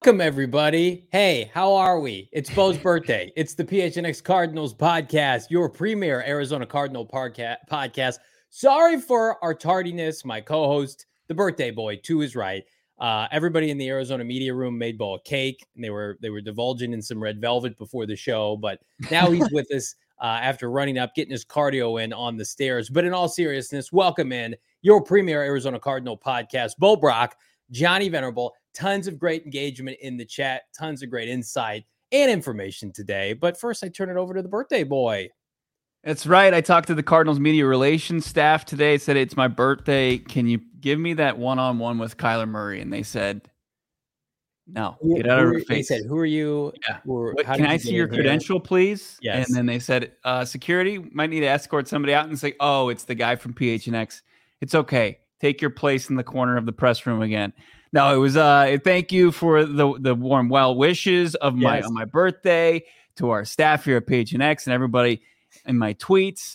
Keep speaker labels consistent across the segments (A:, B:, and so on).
A: Welcome, everybody. Hey, how are we? It's Bo's birthday. It's the PHNX Cardinals podcast, your premier Arizona Cardinal podcast. Sorry for our tardiness. My co-host, the birthday boy, to his right. Everybody in the Arizona media room made Bo a cake, and they were divulging in some red velvet before the show. But now he's with us after running up, getting his cardio in on the stairs. But in all seriousness, welcome in your premier Arizona Cardinal podcast, Bo Brock, Johnny Venerable. Tons of great engagement in the chat, tons of great insight and information today. But first, I turn it over to the birthday boy.
B: That's right. I talked to the Cardinals media relations staff today. Said it's my birthday. Can you give me that one-on-one with Kyler Murray? And they said, no, get out of her face.
A: They said, who are you?
B: Yeah. Can I see your credential, please?
A: Yes.
B: And then they said, security might need to escort somebody out and say, oh, it's the guy from PHNX. It's okay. Take your place in the corner of the press room again. No, it was thank you for the warm well wishes of on my birthday to our staff here at PHNX and everybody in my tweets.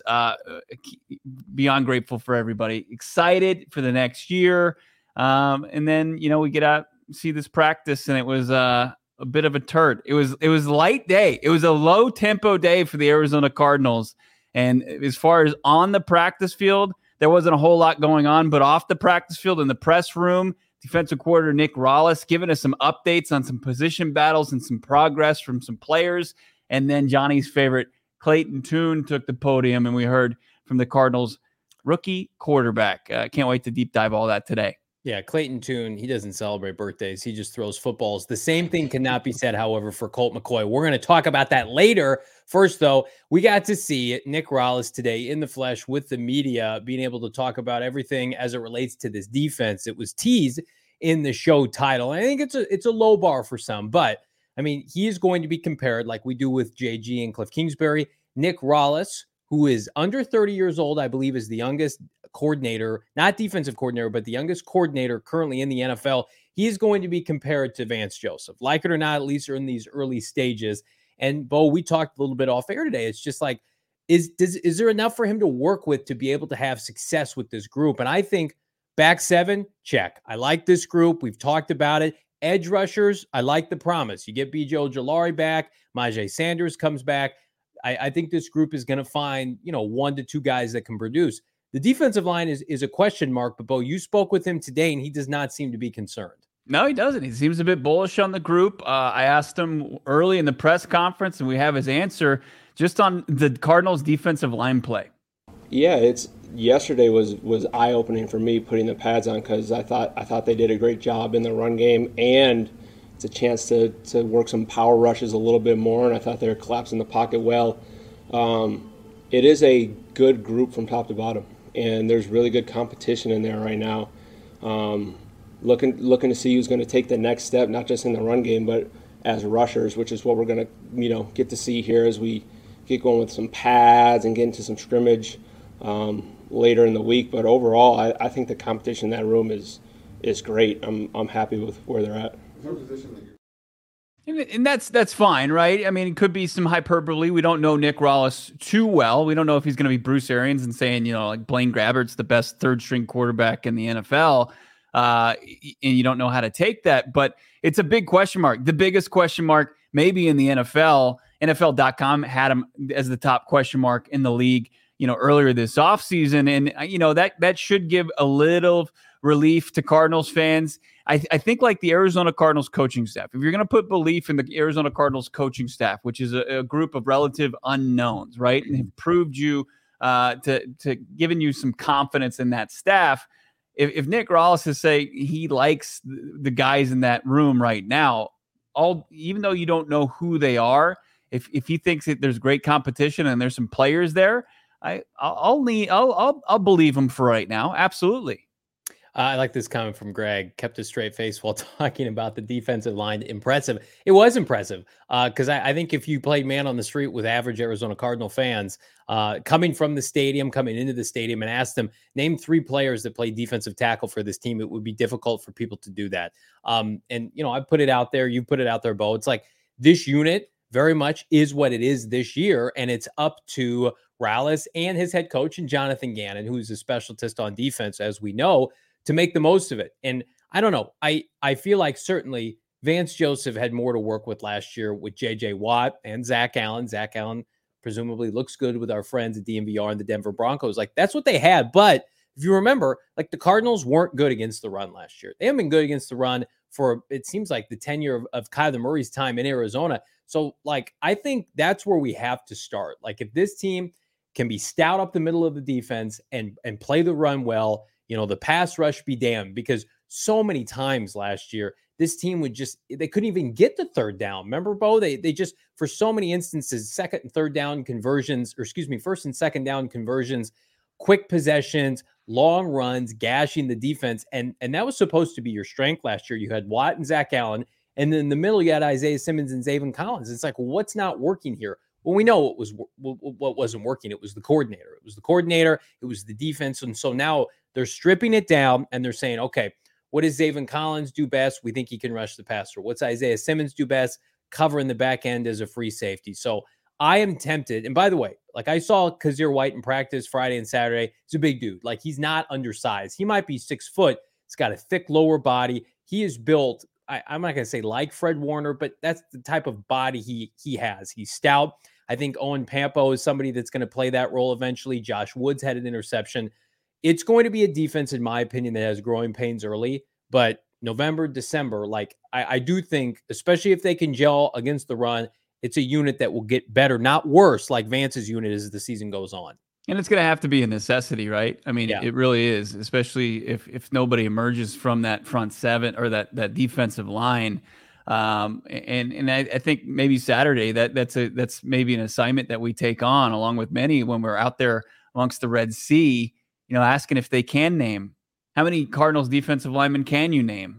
B: Beyond grateful for everybody. Excited for the next year. And then, we get out, see this practice, and it was a bit of a turd. It was a light day. It was a low tempo day for the Arizona Cardinals. And as far as on the practice field, there wasn't a whole lot going on, but off the practice field in the press room, defensive coordinator Nick Rallis giving us some updates on some position battles and some progress from some players. And then Johnny's favorite, Clayton Tune, took the podium, and we heard from the Cardinals rookie quarterback. Can't wait to deep dive all that today.
A: Yeah, Clayton Tune, he doesn't celebrate birthdays. He just throws footballs. The same thing cannot be said, however, for Colt McCoy. We're going to talk about that later. First, though, we got to see Nick Rallis today in the flesh with the media, being able to talk about everything as it relates to this defense. It was teased in the show title. I think it's a low bar for some, but I mean, he is going to be compared like we do with JG and Cliff Kingsbury. Nick Rallis, who is under 30 years old, I believe is the youngest coordinator, not defensive coordinator, but the youngest coordinator currently in the NFL. He is going to be compared to Vance Joseph. Like it or not, at least are in these early stages. And Bo, we talked a little bit off air today. It's just like, is there enough for him to work with to be able to have success with this group? And I think back seven, check. I like this group. We've talked about it. Edge rushers, I like the promise. You get B.J. Ojulari back. Myjai Sanders comes back. I think this group is going to find, 1 to 2 guys that can produce. The defensive line is a question mark, but Bo, you spoke with him today, and he does not seem to be concerned.
B: No, he doesn't. He seems a bit bullish on the group. I asked him early in the press conference, and we have his answer just on the Cardinals' defensive line play.
C: Yeah, yesterday was eye-opening for me putting the pads on because I thought they did a great job in the run game, and it's a chance to work some power rushes a little bit more, and I thought they were collapsing the pocket well. It is a good group from top to bottom, and there's really good competition in there right now. Looking to see who's going to take the next step, not just in the run game, but as rushers, which is what we're going to get to see here as we get going with some pads and get into some scrimmage later in the week. But overall, I think the competition in that room is great. I'm happy with where they're at.
B: And that's fine, right? I mean, it could be some hyperbole. We don't know Nick Rallis too well. We don't know if he's going to be Bruce Arians and saying, like Blaine Grabbert's the best third-string quarterback in the NFL, and you don't know how to take that. But it's a big question mark. The biggest question mark maybe in the NFL. NFL.com had him as the top question mark in the league, earlier this offseason. And, that should give a little relief to Cardinals fans. I think like the Arizona Cardinals coaching staff, if you're going to put belief in the Arizona Cardinals coaching staff, which is a group of relative unknowns, right? And have proved you to giving you some confidence in that staff. If Nick Rallis is saying he likes the guys in that room right now, even though you don't know who they are, if he thinks that there's great competition and there's some players there, I'll believe him for right now. Absolutely.
A: I like this comment from Greg. Kept a straight face while talking about the defensive line. Impressive. It was impressive because I think if you played man on the street with average Arizona Cardinal fans coming from the stadium, coming into the stadium and asked them, name 3 players that play defensive tackle for this team, it would be difficult for people to do that. And, I put it out there. You put it out there, Bo. It's like this unit very much is what it is this year, and it's up to Rallis and his head coach and Jonathan Gannon, who's a specialist on defense, as we know, to make the most of it. And I don't know. I feel like certainly Vance Joseph had more to work with last year with J.J. Watt and Zach Allen. Zach Allen presumably looks good with our friends at DMVR and the Denver Broncos. Like, that's what they had. But if you remember, like, the Cardinals weren't good against the run last year. They haven't been good against the run for, it seems like, the tenure of Kyler Murray's time in Arizona. So, like, I think that's where we have to start. Like, if this team can be stout up the middle of the defense and play the run well, the pass rush be damned, because so many times last year, this team they couldn't even get the third down. Remember, Bo? They just, for so many instances, second and third down conversions, first and second down conversions, quick possessions, long runs, gashing the defense. And that was supposed to be your strength last year. You had Watt and Zach Allen, and then in the middle, you had Isaiah Simmons and Zaven Collins. It's like, what's not working here? Well, we know what wasn't working. It was the coordinator. It was the defense. And so now they're stripping it down and they're saying, okay, what does Zaven Collins do best? We think he can rush the passer. What's Isaiah Simmons do best? Covering the back end as a free safety. So I am tempted. And by the way, like, I saw Kazir White in practice Friday and Saturday. He's a big dude. Like, he's not undersized. He might be 6 foot. He's got a thick lower body. He is built, I'm not going to say like Fred Warner, but that's the type of body he has. He's stout. I think Owen Pampo is somebody that's going to play that role eventually. Josh Woods had an interception. It's going to be a defense, in my opinion, that has growing pains early, but November, December, like, I do think, especially if they can gel against the run, it's a unit that will get better, not worse, like Vance's unit as the season goes on.
B: And it's going to have to be a necessity, right? I mean, It really is, especially if nobody emerges from that front seven or that defensive line. And I think maybe Saturday that's maybe an assignment that we take on, along with many, when we're out there amongst the Red Sea, asking if they can name. How many Cardinals defensive linemen can you name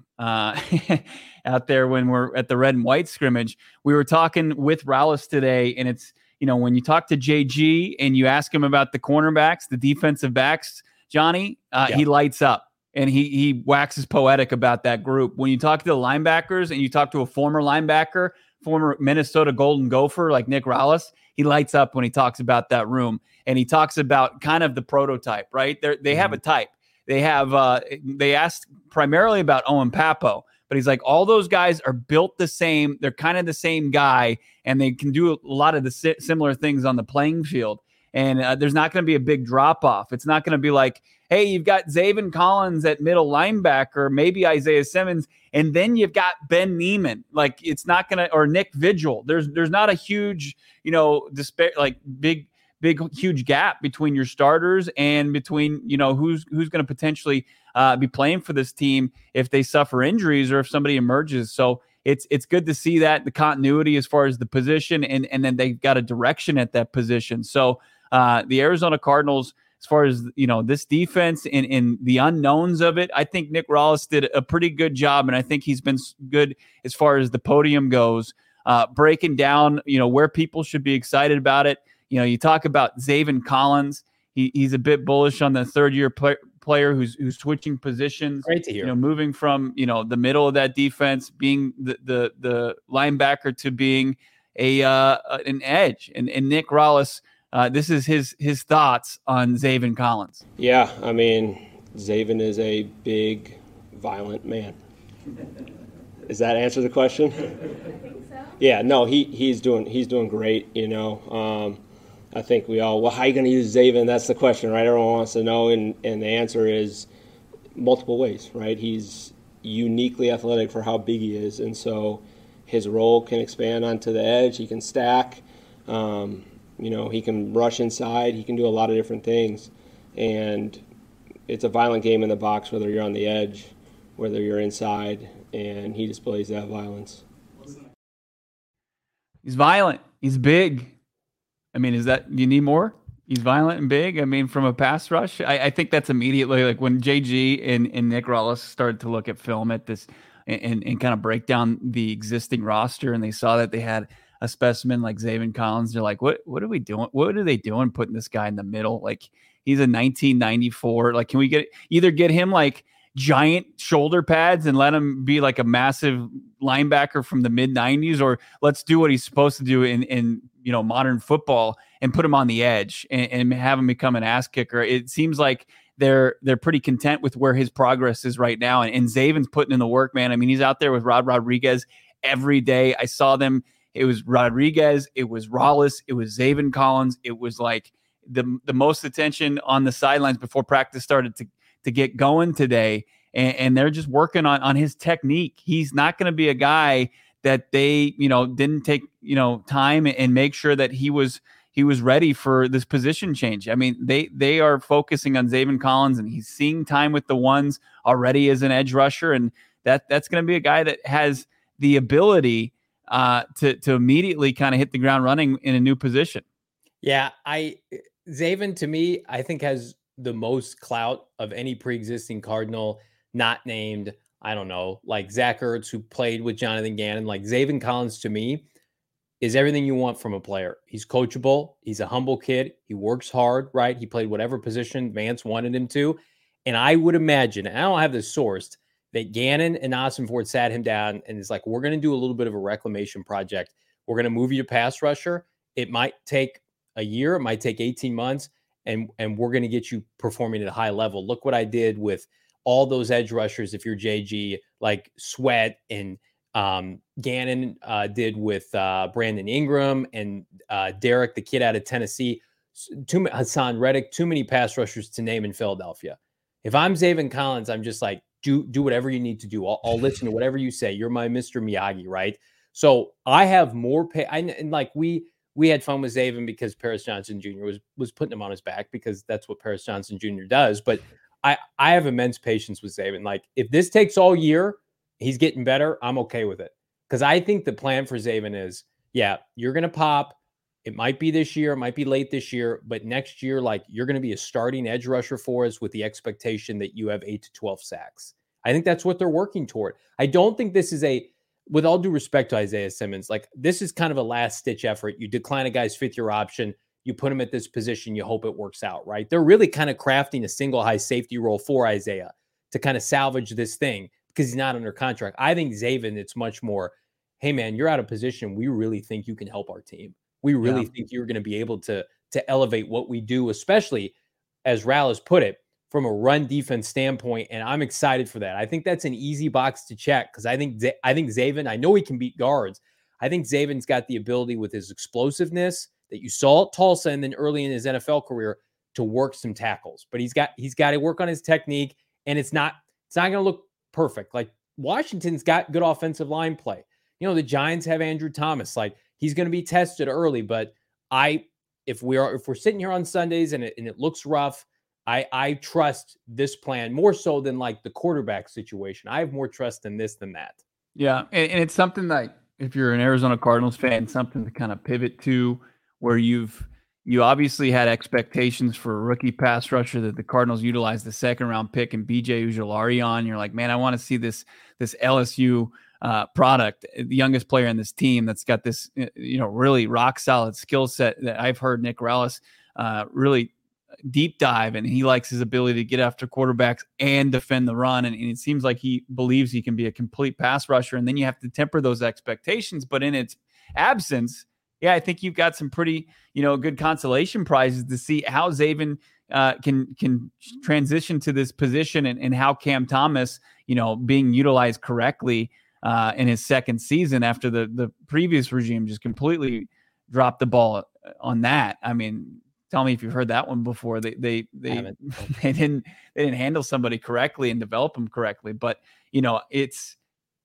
B: out there when we're at the red and white scrimmage? We were talking with Rallis today, and it's, when you talk to JG and you ask him about the cornerbacks, the defensive backs, Johnny, he lights up and he waxes poetic about that group. When you talk to the linebackers and you talk to a former linebacker, former Minnesota Golden Gopher like Nick Rallis, he lights up when he talks about that room. And he talks about kind of the prototype, right? They have a type. They have they asked primarily about Owen Papo, but he's like, all those guys are built the same. They're kind of the same guy, and they can do a lot of the similar things on the playing field. And there's not going to be a big drop off. It's not going to be like, hey, you've got Zaven Collins at middle linebacker, maybe Isaiah Simmons, and then you've got Ben Neiman. Like, it's not going to, or Nick Vigil. There's not a huge, huge gap between your starters and between, who's going to potentially be playing for this team if they suffer injuries or if somebody emerges. So it's good to see that, the continuity as far as the position, and then they've got a direction at that position. So the Arizona Cardinals, as far as, this defense and the unknowns of it, I think Nick Rallis did a pretty good job. And I think he's been good as far as the podium goes, breaking down, where people should be excited about it. You talk about Zaven Collins. He's a bit bullish on the third-year player who's switching positions.
A: Great to hear.
B: Moving from the middle of that defense, being the linebacker, to being an edge. And Nick Rallis, this is his thoughts on Zaven Collins.
C: Yeah, I mean, Zaven is a big, violent man. Does that answer the question? I think so. Yeah, no, he's doing great. I think we all, how are you going to use Zaven? That's the question, right? Everyone wants to know, and the answer is multiple ways, right? He's uniquely athletic for how big he is, and so his role can expand onto the edge. He can stack. He can rush inside. He can do a lot of different things, and it's a violent game in the box, whether you're on the edge, whether you're inside, and he displays that violence.
B: He's violent. He's big. I mean, you need more? He's violent and big. I mean, from a pass rush, I think that's immediately, like, when JG and Nick Rallis started to look at film at this and kind of break down the existing roster, and they saw that they had a specimen like Zaven Collins. They're like, what are we doing? What are they doing putting this guy in the middle? Like, he's a 1994. Like, can we either get him like giant shoulder pads and let him be like a massive linebacker from the mid 90s, or let's do what he's supposed to do in modern football and put him on the edge and have him become an ass kicker. It seems like they're pretty content with where his progress is right now. And Zaven's putting in the work, man. I mean, he's out there with Rod Rodriguez every day. I saw them. It was Rodriguez. It was Rollis. It was Zaven Collins. It was like the most attention on the sidelines before practice started to get going today. And they're just working on his technique. He's not going to be a guy that they, didn't take, time and make sure that he was ready for this position change. I mean, they are focusing on Zaven Collins, and he's seeing time with the ones already as an edge rusher. And that's going to be a guy that has the ability to immediately kind of hit the ground running in a new position.
A: Yeah, Zaven, to me, I think has the most clout of any pre-existing Cardinal not named, I don't know, like Zach Ertz, who played with Jonathan Gannon. Like Zaven Collins, to me, is everything you want from a player. He's coachable. He's a humble kid. He works hard, right? He played whatever position Vance wanted him to. And I would imagine, and I don't have this sourced, that Gannon and Ossenford sat him down and is like, we're going to do a little bit of a reclamation project. We're going to move you to pass rusher. It might take a year. It might take 18 months. And we're going to get you performing at a high level. Look what I did with all those edge rushers. If you're JG, like Sweat and Gannon did with Brandon Ingram and Derek, the kid out of Tennessee, Hassan Reddick, too many pass rushers to name in Philadelphia. If I'm Zaven Collins, I'm just like, do whatever you need to do. I'll listen to whatever you say. You're my Mr. Miyagi, right? So I have more pay. And like we had fun with Zaven because Paris Johnson Jr. was putting him on his back because that's what Paris Johnson Jr. does. But I have immense patience with Zaven. Like if this takes all year, he's getting better, I'm okay with it. Because I think the plan for Zaven is, yeah, you're going to pop. It might be this year. It might be late this year. But next year, like you're going to be a starting edge rusher for us with the expectation that you have 8 to 12 sacks. I think that's what they're working toward. I don't think this is with all due respect to Isaiah Simmons, like this is kind of a last-ditch effort. You decline a guy's fifth-year option. You put him at this position. You hope it works out, right? They're really kind of crafting a single high safety role for Isaiah to kind of salvage this thing, because he's not under contract. I think Zaven, it's much more, hey, man, you're out of position. We really think you can help our team. We really think you're going to be able to elevate what we do, especially, as Rallis put it, from a run defense standpoint. And I'm excited for that. I think that's an easy box to check because I think Zaven, I know he can beat guards. I think Zaven's got the ability with his explosiveness that you saw at Tulsa and then early in his NFL career to work some tackles. But he's got to work on his technique, and it's not going to look perfect. Like Washington's got good offensive line play. The Giants have Andrew Thomas. Like he's going to be tested early, but if we're sitting here on Sundays and it looks rough, I trust this plan more so than like the quarterback situation. I have more trust in this than that.
B: Yeah, and it's something that if you're an Arizona Cardinals fan, something to kind of pivot to, where you obviously had expectations for a rookie pass rusher that the Cardinals utilized the second round pick and BJ Ujulari on. You're like, man, I want to see this LSU product, the youngest player in this team that's got this, really rock solid skill set that I've heard Nick Rallis really deep dive, and he likes his ability to get after quarterbacks and defend the run. And it seems like he believes he can be a complete pass rusher. And then you have to temper those expectations. But in its absence, yeah, I think you've got some pretty, good consolation prizes to see how Zaven can transition to this position and how Cam Thomas, being utilized correctly in his second season after the previous regime just completely dropped the ball on that. I mean, tell me if you've heard that one before. They didn't handle somebody correctly and develop them correctly. But it's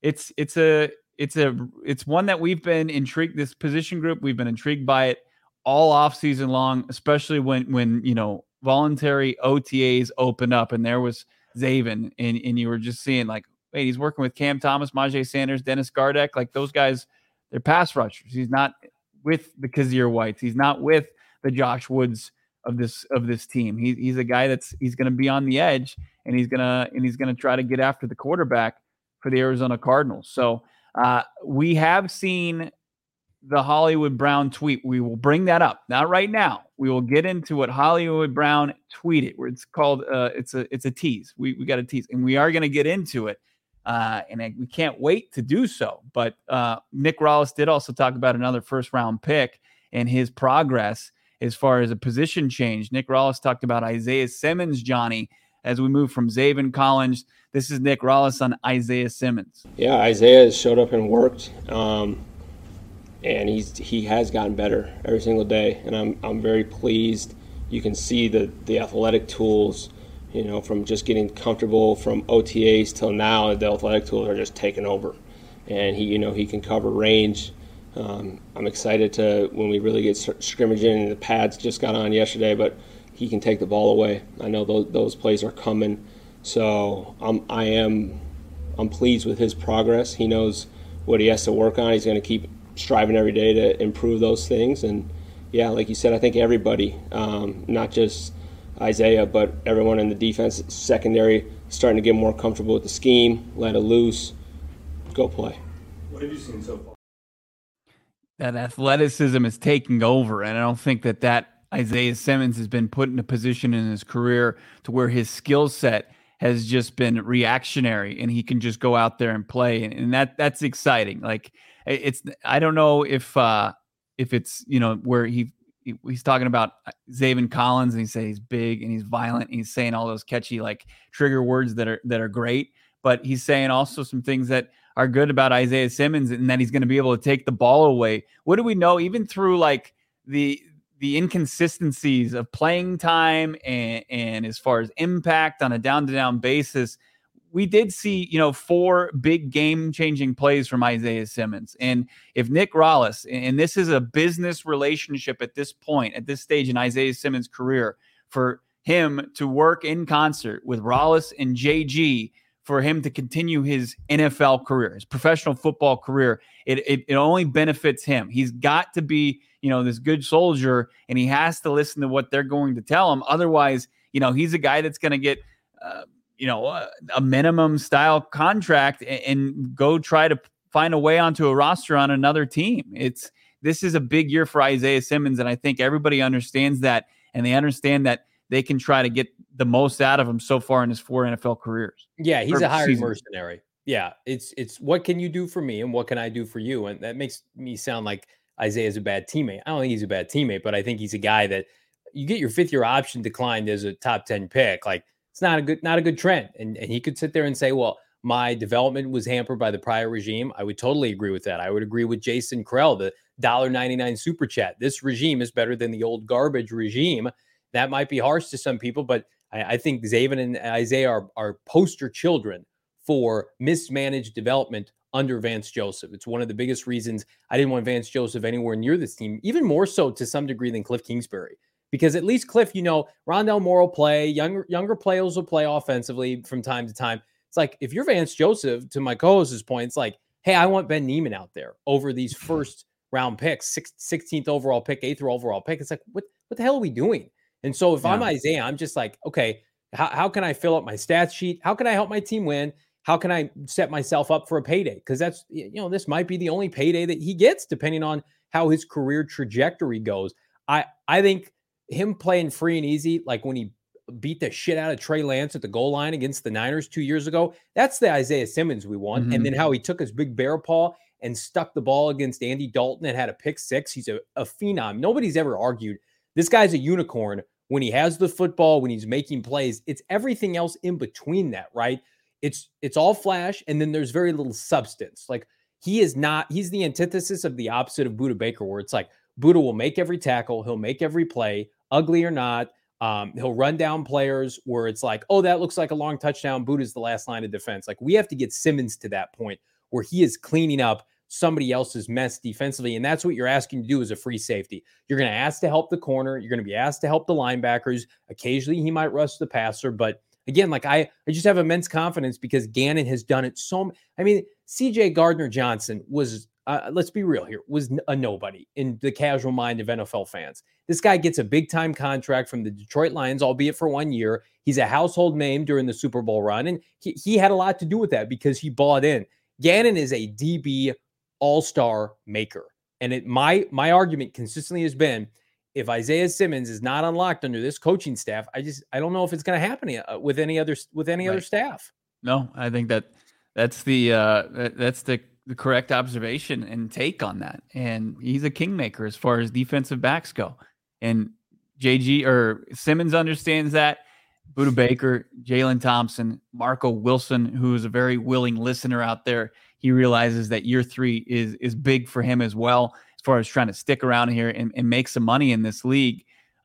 B: one that we've been intrigued. This position group, we've been intrigued by it all off season long, especially when voluntary OTAs opened up and there was Zaven and you were just seeing like, wait, he's working with Cam Thomas, Myjai Sanders, Dennis Gardeck. Like those guys, they're pass rushers. He's not with the Kazir Whites. He's not with the Josh Woods of this team. He's a guy he's going to be on the edge, and he's going to try to get after the quarterback for the Arizona Cardinals. So we have seen the Hollywood Brown tweet. We will bring that up. Not right now. We will get into what Hollywood Brown tweeted, where it's called it's a tease. We got a tease, and we are going to get into it. We can't wait to do so. But Nick Rallis did also talk about another first round pick and his progress as far as a position change. Nick Rallis talked about Isaiah Simmons, Johnny, as we move from Zaven Collins. This is Nick Rallis on Isaiah Simmons.
C: Yeah, Isaiah has showed up and worked, and he has gotten better every single day, and I'm very pleased. You can see the athletic tools, from just getting comfortable from OTAs till now. The athletic tools are just taking over, and he can cover range. I'm excited to when we really get scrimmaging, and the pads just got on yesterday, but he can take the ball away. I know those plays are coming, so I'm pleased with his progress. He knows what he has to work on. He's going to keep striving every day to improve those things. And yeah, like you said, I think everybody, not just Isaiah, but everyone in the defense secondary, starting to get more comfortable with the scheme, let it loose, go play.
D: What have you seen so far?
B: That athleticism is taking over, and I don't think that Isaiah Simmons has been put in a position in his career to where his skill set has just been reactionary and he can just go out there and play. And that's exciting. Like I don't know if it's, where he's talking about Zaven Collins and he says he's big and he's violent and he's saying all those catchy, like trigger words that are great, but he's saying also some things that are good about Isaiah Simmons and that he's going to be able to take the ball away. What do we know? Even through like the inconsistencies of playing time and as far as impact on a down-to-down basis, we did see, 4 big game-changing plays from Isaiah Simmons. And if Nick Rallis, and this is a business relationship at this point, at this stage in Isaiah Simmons' career, for him to work in concert with Rallis and JG, for him to continue his NFL career, his professional football career, it only benefits him. He's got to be, this good soldier, and he has to listen to what they're going to tell him. Otherwise, he's a guy that's going to get, a minimum style contract and go try to find a way onto a roster on another team. This is a big year for Isaiah Simmons, and I think everybody understands that, and they understand that they can try to get the most out of him so far in his 4 NFL careers.
A: Yeah, he's a hired mercenary. Yeah, it's what can you do for me and what can I do for you? And that makes me sound like Isaiah's a bad teammate. I don't think he's a bad teammate, but I think he's a guy that you get your 5th-year option declined as a top 10 pick. Like, it's not a good trend. And he could sit there and say, well, my development was hampered by the prior regime. I would totally agree with that. I would agree with Jason Krell, the $1.99 super chat. This regime is better than the old garbage regime. That might be harsh to some people, but I think Zaven and Isaiah are poster children for mismanaged development under Vance Joseph. It's one of the biggest reasons I didn't want Vance Joseph anywhere near this team, even more so to some degree than Cliff Kingsbury. Because at least Cliff, Rondale Moore will play, younger players will play offensively from time to time. It's like, if you're Vance Joseph, to my co-host's point, it's like, hey, I want Ben Niemann out there over these first round picks, 16th overall pick, 8th overall pick. It's like, what the hell are we doing? And so if I'm Isaiah, I'm just like, okay, how can I fill up my stats sheet? How can I help my team win? How can I set myself up for a payday? Because that's, this might be the only payday that he gets, depending on how his career trajectory goes. I think him playing free and easy, like when he beat the shit out of Trey Lance at the goal line against the Niners 2 years ago, that's the Isaiah Simmons we want. Mm-hmm. And then how he took his big bear paw and stuck the ball against Andy Dalton and had a pick 6. He's a phenom. Nobody's ever argued this guy's a unicorn when he has the football, when he's making plays. It's everything else in between that, right? It's all flash, and then there's very little substance. Like, he's the antithesis of the opposite of Budda Baker, where it's like Budda will make every tackle, he'll make every play, ugly or not. He'll run down players where it's like, oh, that looks like a long touchdown. Budda's the last line of defense. Like, we have to get Simmons to that point where he is cleaning up somebody else's mess defensively. And that's what you're asking to do as a free safety. You're going to ask to help the corner. You're going to be asked to help the linebackers. Occasionally he might rush the passer. But again, like I just have immense confidence because Gannon has done it CJ Gardner-Johnson was, let's be real here, was a nobody in the casual mind of NFL fans. This guy gets a big-time contract from the Detroit Lions, albeit for 1 year. He's a household name during the Super Bowl run, and he had a lot to do with that because he bought in. Gannon is a DB all-star maker. And my argument consistently has been, if Isaiah Simmons is not unlocked under this coaching staff, I don't know if it's going to happen with any other staff.
B: No, I think that's the correct observation and take on that. And he's a kingmaker as far as defensive backs go. And JG or Simmons understands that. Buda Baker, Jalen Thompson, Marco Wilson, who is a very willing listener out there. He realizes that year 3 is big for him as well, as far as trying to stick around here and make some money in this league.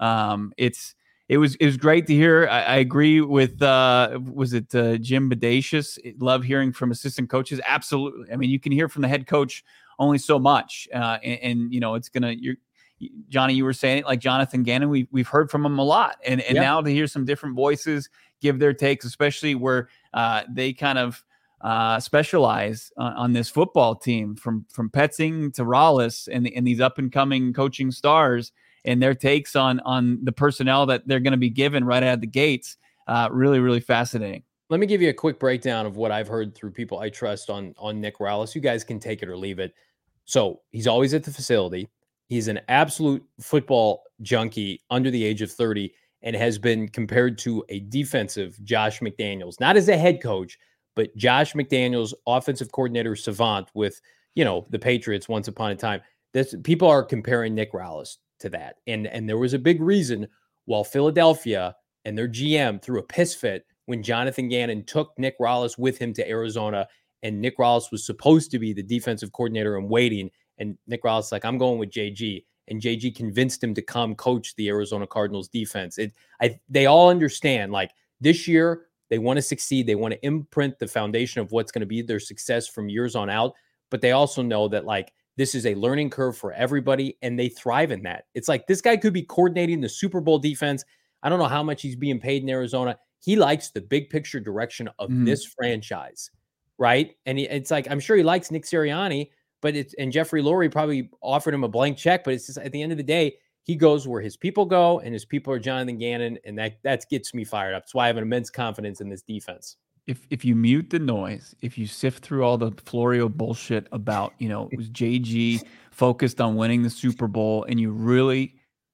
B: It was great to hear. I agree with was it Jim Bedasius? Love hearing from assistant coaches. Absolutely. I mean, you can hear from the head coach only so much, and you know it's gonna. Johnny, you were saying it, like Jonathan Gannon. We've heard from him a lot, and now to hear some different voices give their takes, especially where they kind of specialize on this football team, from Petzing to Rallis and these up and coming coaching stars, and their takes on the personnel that they're going to be given right out of the gates. Really, really fascinating.
A: Let me give you a quick breakdown of what I've heard through people I trust on Nick Rallis. You guys can take it or leave it. So he's always at the facility. He's an absolute football junkie under the age of 30 and has been compared to a defensive Josh McDaniels, not as a head coach, but Josh McDaniels, offensive coordinator savant with, the Patriots once upon a time. People are comparing Nick Rallis to that. And there was a big reason while Philadelphia and their GM threw a piss fit when Jonathan Gannon took Nick Rallis with him to Arizona, and Nick Rallis was supposed to be the defensive coordinator in waiting. And Nick Rallis like, I'm going with JG. And JG convinced him to come coach the Arizona Cardinals defense. They all understand, like, this year they want to succeed. They want to imprint the foundation of what's going to be their success from years on out. But they also know that, like, this is a learning curve for everybody, and they thrive in that. It's like this guy could be coordinating the Super Bowl defense. I don't know how much he's being paid in Arizona. He likes the big picture direction of this franchise, right? And it's like, I'm sure he likes Nick Sirianni, and Jeffrey Lurie probably offered him a blank check, but it's just at the end of the day, he goes where his people go, and his people are Jonathan Gannon, and that gets me fired up. That's why I have an immense confidence in this defense.
B: If you mute the noise, if you sift through all the Florio bullshit about, it was JG focused on winning the Super Bowl, and you really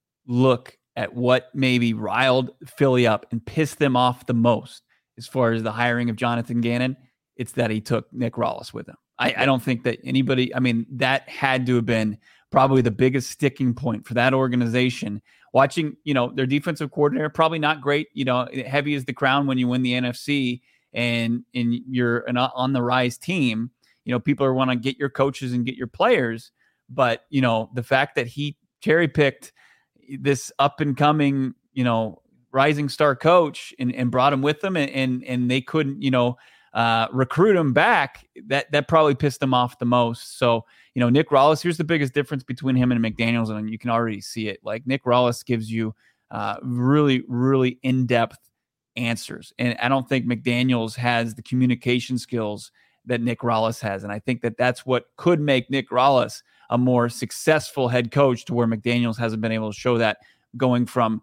B: look at what maybe riled Philly up and pissed them off the most as far as the hiring of Jonathan Gannon, it's that he took Nick Rallis with him. I don't think that anybody, I mean, that had to have been probably the biggest sticking point for that organization. Watching, their defensive coordinator, probably not great, heavy as the crown when you win the NFC and you're an on the rise team. People are want to get your coaches and get your players. But, the fact that he cherry picked this up and coming, rising star coach and brought him with them and they couldn't, recruit him back, that probably pissed him off the most. So, Nick Rallis, here's the biggest difference between him and McDaniels, and you can already see it. Like, Nick Rallis gives you really, really in-depth answers. And I don't think McDaniels has the communication skills that Nick Rallis has. And I think that that's what could make Nick Rallis a more successful head coach, to where McDaniels hasn't been able to show that, going from,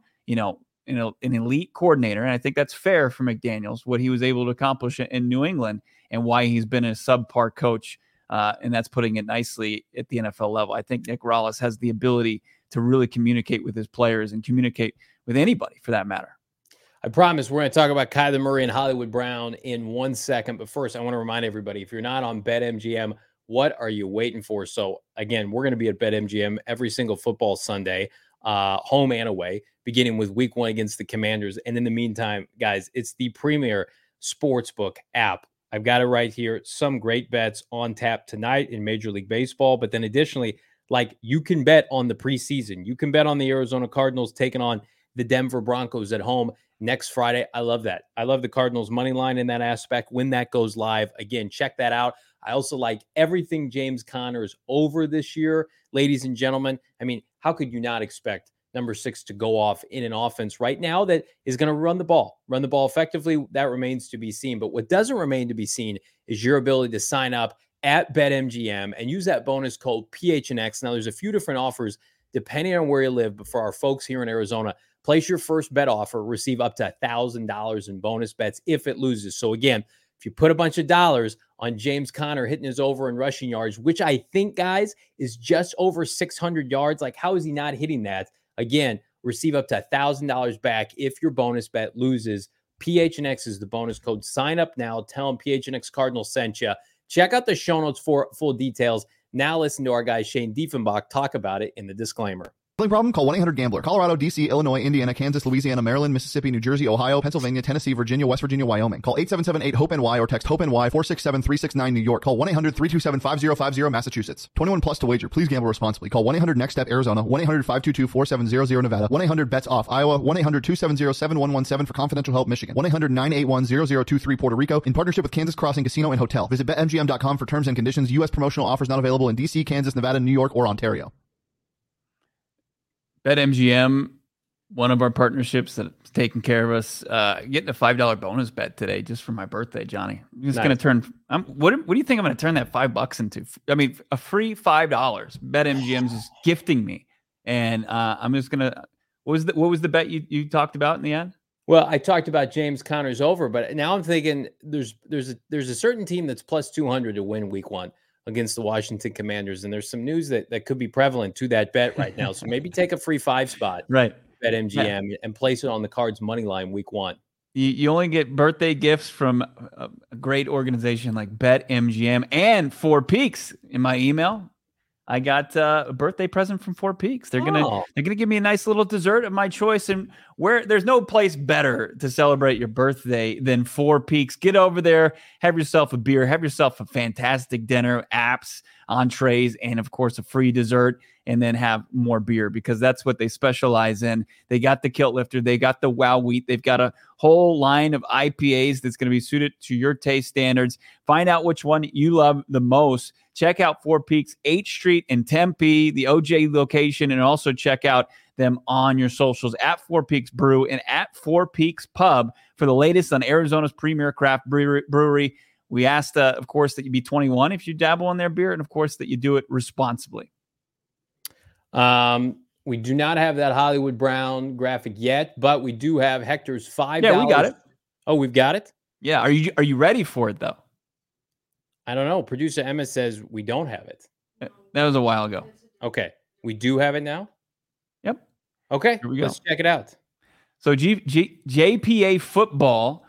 B: an elite coordinator. And I think that's fair for McDaniels, what he was able to accomplish in New England and why he's been a subpar coach. And that's putting it nicely at the NFL level. I think Nick Rallis has the ability to really communicate with his players and communicate with anybody for that matter.
A: I promise we're going to talk about Kyler Murray and Hollywood Brown in 1 second. But first, I want to remind everybody, if you're not on BetMGM, what are you waiting for? So again, we're going to be at BetMGM every single football Sunday, home and away, beginning with week 1 against the Commanders. And in the meantime, guys, it's the premier sportsbook app. I've got it right here. Some great bets on tap tonight in Major League Baseball. But then additionally, like, you can bet on the preseason. You can bet on the Arizona Cardinals taking on the Denver Broncos at home next Friday. I love that. I love the Cardinals money line in that aspect when that goes live. Again, check that out. I also like everything James Conner's over this year, ladies and gentlemen. I mean, how could you not expect number 6 to go off in an offense right now that is going to run the ball effectively? That remains to be seen. But what doesn't remain to be seen is your ability to sign up at BetMGM and use that bonus code PHNX. Now, there's a few different offers depending on where you live, but for our folks here in Arizona, place your first bet offer, receive up to $1,000 in bonus bets if it loses. So again, if you put a bunch of dollars on James Conner hitting his over in rushing yards, which I think, guys, is just over 600 yards, like, how is he not hitting that? Again, receive up to $1,000 back if your bonus bet loses. PHNX is the bonus code. Sign up now. Tell them PHNX Cardinals sent you. Check out the show notes for full details. Now listen to our guy Shane Diefenbach talk about it in the disclaimer.
E: Problem? Call 1-800-GAMBLER. Colorado, D.C., Illinois, Indiana, Kansas, Louisiana, Maryland, Mississippi, New Jersey, Ohio, Pennsylvania, Tennessee, Virginia, West Virginia, Wyoming. Call 877-8-HOPE-NY or text HOPE-NY 467-369 New York. Call 1-800-327-5050 Massachusetts. 21 plus to wager. Please gamble responsibly. Call 1-800-NEXT-STEP Arizona, 1-800-522-4700 Nevada, 1-800-BETS-OFF Iowa, 1-800-270-7117 for confidential help Michigan, 1-800-981-0023 Puerto Rico in partnership with Kansas Crossing Casino and Hotel. Visit BetMGM.com for terms and conditions. U.S. promotional offers not available in D.C., Kansas, Nevada, New York, or Ontario.
B: BetMGM, one of our partnerships that's taking care of us, getting a $5 bonus bet today just for my birthday, Johnny. I'm just going to turn. What do you think I'm going to turn that $5 into? I mean, a free $5. BetMGM's is gifting me, and I'm just going to. What was the bet you talked about in the end?
A: Well, I talked about James Conner's over, but now I'm thinking there's a certain team that's plus 200 to win week 1 against the Washington Commanders. And there's some news that could be prevalent to that bet right now. So maybe take a free 5 spot,
B: right?
A: BetMGM, and place it on the Cards money line week 1.
B: You only get birthday gifts from a great organization like BetMGM and Four Peaks. In my email, I got a birthday present from Four Peaks. They're gonna give me a nice little dessert of my choice, and where there's no place better to celebrate your birthday than Four Peaks. Get over there, have yourself a beer, have yourself a fantastic dinner, apps, entrees, and of course a free dessert, and then have more beer because that's what they specialize in. They got the Kilt Lifter, they got the Wow Wheat, they've got a whole line of IPAs that's going to be suited to your taste standards. Find out which one you love the most. Check out Four Peaks, 8th Street in Tempe, the OJ location, and also check out them on your socials at Four Peaks Brew and at Four Peaks Pub for the latest on Arizona's premier craft brewery. We asked, of course, that you be 21 if you dabble in their beer, and of course that you do it responsibly.
A: We do not have that Hollywood Brown graphic yet, but we do have Hector's $5.
B: Yeah, we got it.
A: Oh, we've got it?
B: Yeah. Are you ready for it, though?
A: I don't know. Producer Emma says we don't have it.
B: That was a while ago.
A: Okay. We do have it now?
B: Yep.
A: Okay.
B: Here we go.
A: Let's check it out.
B: So JPA Football,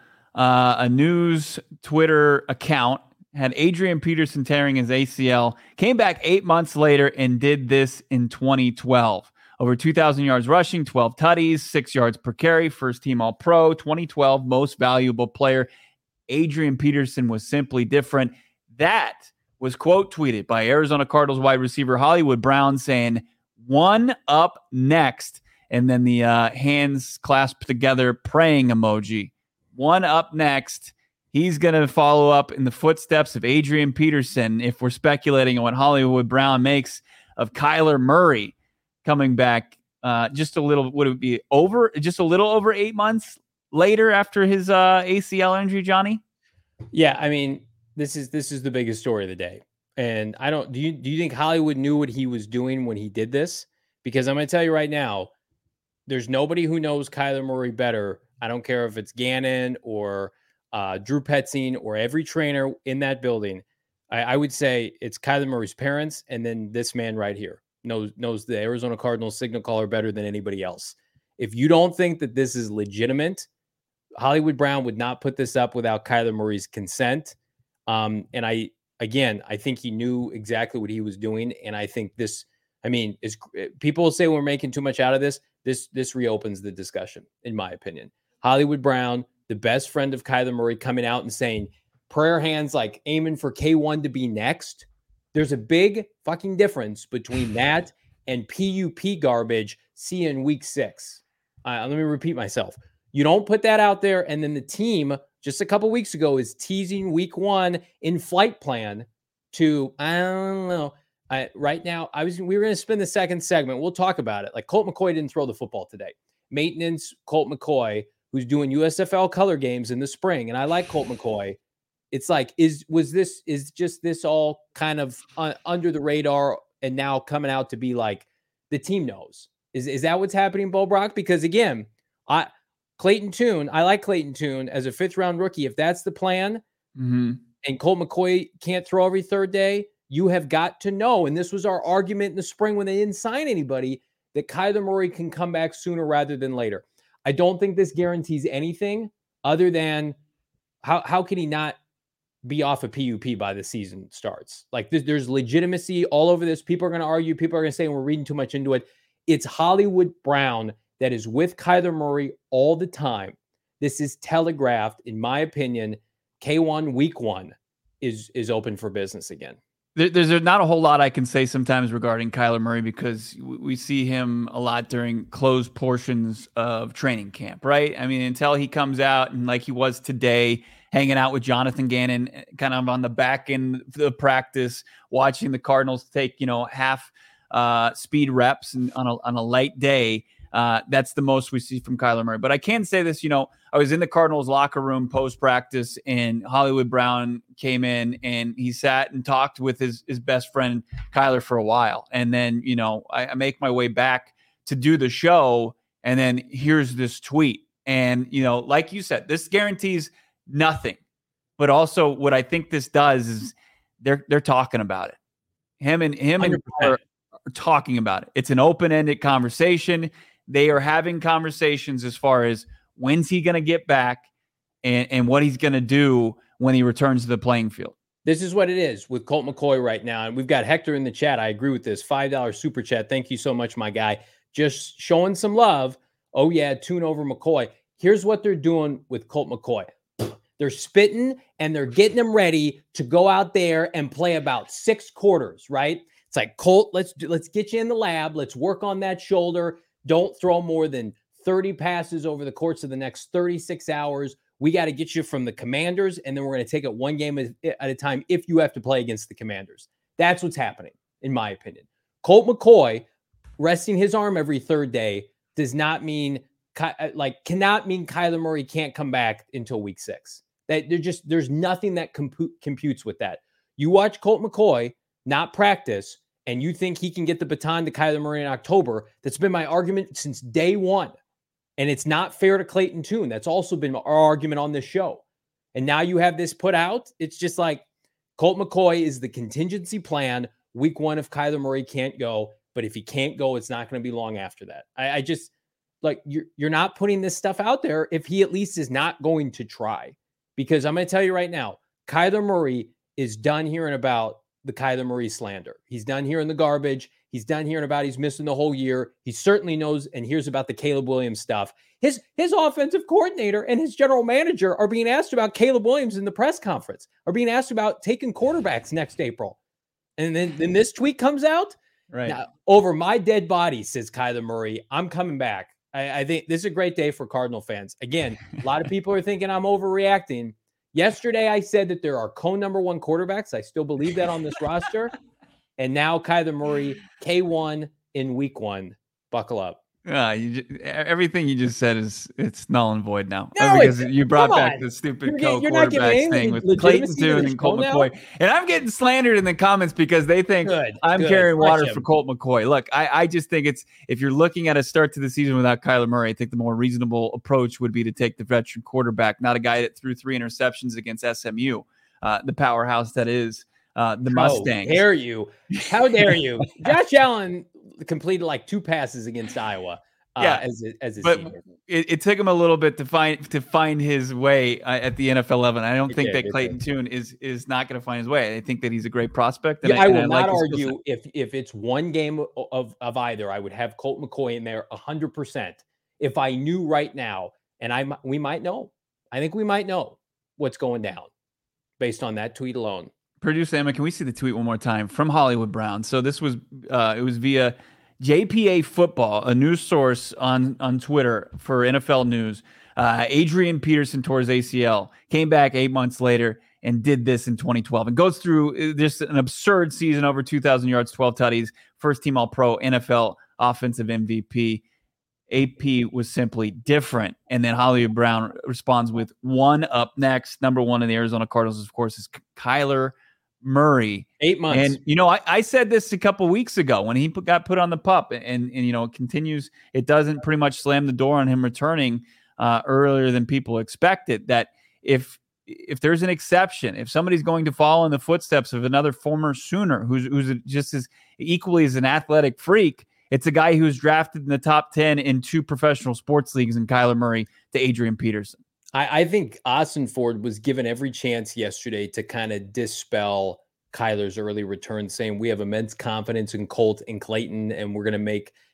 B: a news Twitter account, had Adrian Peterson tearing his ACL, came back 8 months later and did this in 2012. Over 2,000 yards rushing, 12 tutties, 6 yards per carry, first team All-Pro, 2012 most valuable player. Adrian Peterson was simply different. That was quote tweeted by Arizona Cardinals wide receiver Hollywood Brown saying, "One up next." And then the hands clasped together praying emoji. One up next. He's going to follow up in the footsteps of Adrian Peterson if we're speculating on what Hollywood Brown makes of Kyler Murray coming back just a little, would it be over, just a little over 8 months later after his ACL injury, Johnny?
A: Yeah, I mean, this is the biggest story of the day. And I don't, do you think Hollywood knew what he was doing when he did this? Because I'm going to tell you right now, there's nobody who knows Kyler Murray better. I don't care if it's Gannon or Drew Petzing or every trainer in that building. I would say it's Kyler Murray's parents, and then this man right here knows the Arizona Cardinals signal caller better than anybody else. If you don't think that this is legitimate, Hollywood Brown would not put this up without Kyler Murray's consent. And I think he knew exactly what he was doing. And I think this, I mean, is people say we're making too much out of this. This reopens the discussion, in my opinion. Hollywood Brown, the best friend of Kyler Murray, coming out and saying prayer hands like aiming for K1 to be next. There's a big fucking difference between that and PUP garbage in week 6. Let me repeat myself. You don't put that out there, and then the team just a couple weeks ago is teasing week 1 in flight plan to, I don't know. Right now, we were going to spend the second segment. We'll talk about it. Like Colt McCoy didn't throw the football today. Maintenance Colt McCoy, who's doing USFL color games in the spring, and I like Colt McCoy. It's like, is this all kind of under the radar and now coming out to be like the team knows? Is that what's happening, Bo Brock? Because again, Clayton Tune, I like Clayton Tune as a 5th round rookie. If that's the plan, and Colt McCoy can't throw every third day, you have got to know, and this was our argument in the spring when they didn't sign anybody, that Kyler Murray can come back sooner rather than later. I don't think this guarantees anything other than how can he not be off a PUP by the season starts? Like there's legitimacy all over this. People are going to argue. People are going to say we're reading too much into it. It's Hollywood Brown that is with Kyler Murray all the time. This is telegraphed, in my opinion. K1 week 1 is open for business again.
B: There's not a whole lot I can say sometimes regarding Kyler Murray because we see him a lot during closed portions of training camp, right? I mean, until he comes out and like he was today, hanging out with Jonathan Gannon, kind of on the back end of the practice, watching the Cardinals take, half speed reps and on a light day. That's the most we see from Kyler Murray. But I can say this, I was in the Cardinals locker room post-practice and Hollywood Brown came in and he sat and talked with his best friend Kyler for a while. And then, I make my way back to do the show and then here's this tweet. And, like you said, this guarantees nothing. But also what I think this does is they're talking about it. Him and are talking about it. It's an open-ended conversation. They are having conversations as far as when's he going to get back and what he's going to do when he returns to the playing field.
A: This is what it is with Colt McCoy right now. And we've got Hector in the chat. I agree with this. $5 super chat. Thank you so much, my guy. Just showing some love. Oh, yeah, tune over McCoy. Here's what they're doing with Colt McCoy. They're spitting and they're getting him ready to go out there and play about 6 quarters, right? It's like, Colt, let's get you in the lab. Let's work on that shoulder. Don't throw more than 30 passes over the course of the next 36 hours. We got to get you from the Commanders, and then we're going to take it one game at a time if you have to play against the Commanders. That's what's happening, in my opinion. Colt McCoy resting his arm every third day does not mean, cannot mean Kyler Murray can't come back until week 6. There's nothing that computes with that. You watch Colt McCoy not practice, and you think he can get the baton to Kyler Murray in October. That's been my argument since day one. And it's not fair to Clayton Tune. That's also been our argument on this show. And now you have this put out. It's just like Colt McCoy is the contingency plan. Week 1 if Kyler Murray can't go. But if he can't go, it's not going to be long after that. I just, you're not putting this stuff out there if he at least is not going to try. Because I'm going to tell you right now, Kyler Murray is done hearing about the Kyler Murray slander. He's done hearing the garbage. He's done hearing about he's missing the whole year. He certainly knows and hears about the Caleb Williams stuff. His offensive coordinator and his general manager are being asked about Caleb Williams in the press conference, are being asked about taking quarterbacks next April. And then this tweet comes out.
B: Right.
A: Now, over my dead body, says Kyler Murray, I'm coming back. I think this is a great day for Cardinal fans. Again, a lot of people are thinking I'm overreacting. Yesterday, I said that there are co-number 1 quarterbacks. I still believe that on this roster. And now Kyler Murray, K1 in week 1. Buckle up.
B: Everything you just said it's null and void now.
A: No,
B: because you brought back the stupid co-quarterbacks thing with Clayton Tune and Colt McCoy. And I'm getting slandered in the comments because they think I'm carrying water for Colt McCoy. Look, I just think if you're looking at a start to the season without Kyler Murray, I think the more reasonable approach would be to take the veteran quarterback, not a guy that threw 3 interceptions against SMU, the powerhouse that is the Mustangs.
A: How dare you? Josh Allen completed 2 passes against Iowa. As a senior.
B: It took him a little bit to find his way at the NFL level. I don't think that Clayton Tune is not going to find his way. I think that he's a great prospect. And
A: I will not argue if it's one game of either. I would have Colt McCoy in there 100%. If I knew right now, and we might know. I think we might know what's going down based on that tweet alone.
B: Producer Emma, can we see the tweet one more time from Hollywood Brown? So this was it was via JPA Football, a news source on Twitter for NFL News. Adrian Peterson tore his ACL, came back 8 months later and did this in 2012 and goes through just an absurd season, over 2,000 yards, 12 tutties, first team All-Pro, NFL offensive MVP. AP was simply different. And then Hollywood Brown responds with one up next. Number 1 in the Arizona Cardinals, of course, is Kyler Murray.
A: 8 months.
B: And, I said this a couple weeks ago when he got put on the pup and it continues. It doesn't pretty much slam the door on him returning earlier than people expected. That if there's an exception, if somebody's going to follow in the footsteps of another former Sooner who's just as equally as an athletic freak, it's a guy who's drafted in the top 10 in 2 professional sports leagues, in Kyler Murray to Adrian Peterson.
A: I think Austin Ford was given every chance yesterday to kind of dispel Kyler's early return, saying we have immense confidence in Colt and Clayton, and we're going to make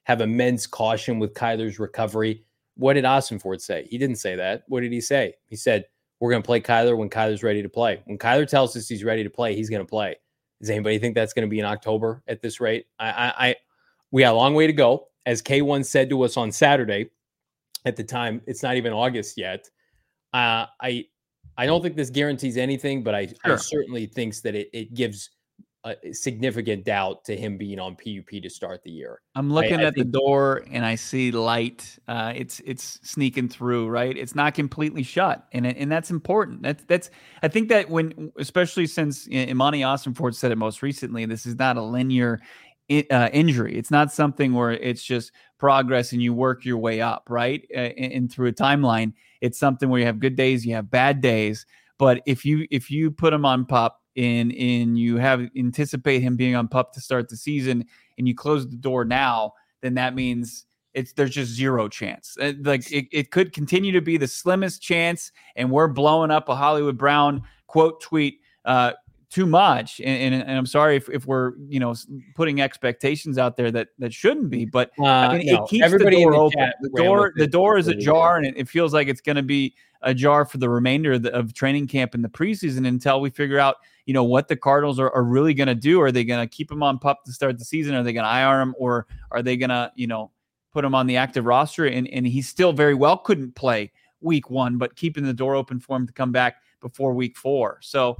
A: have immense caution with Kyler's recovery. What did Ossenfort say? He didn't say that. What did he say? He said, we're going to play Kyler when Kyler's ready to play. When Kyler tells us he's ready to play, he's going to play. Does anybody think that's going to be in October at this rate? We got a long way to go. As K1 said to us on Saturday, at the time, it's not even August yet. I don't think this guarantees anything, but I certainly think that it gives a significant doubt to him being on PUP to start the year.
B: I'm looking at the door and I see light. It's sneaking through, right? It's not completely shut, and that's important. That's I think that when, especially since Imani Ossenfort said it most recently, this is not a linear injury. It's not something where it's just progress and you work your way up, right? And through a timeline, it's something where you have good days, you have bad days. But if you put him on PUP and you anticipate him being on PUP to start the season, and you close the door now, then that means there's just zero chance. It could continue to be the slimmest chance, and we're blowing up a Hollywood Brown quote tweet too much. And I'm sorry if we're putting expectations out there that shouldn't be, but it keeps everybody the door open. The door is ajar, and it feels like it's going to be ajar for the remainder of training camp in the preseason until we figure out what the Cardinals are really going to do. Are they going to keep him on PUP to start the season? Are they going to IR him, or are they going to put him on the active roster? And he still very well couldn't play week 1, but keeping the door open for him to come back before week 4. So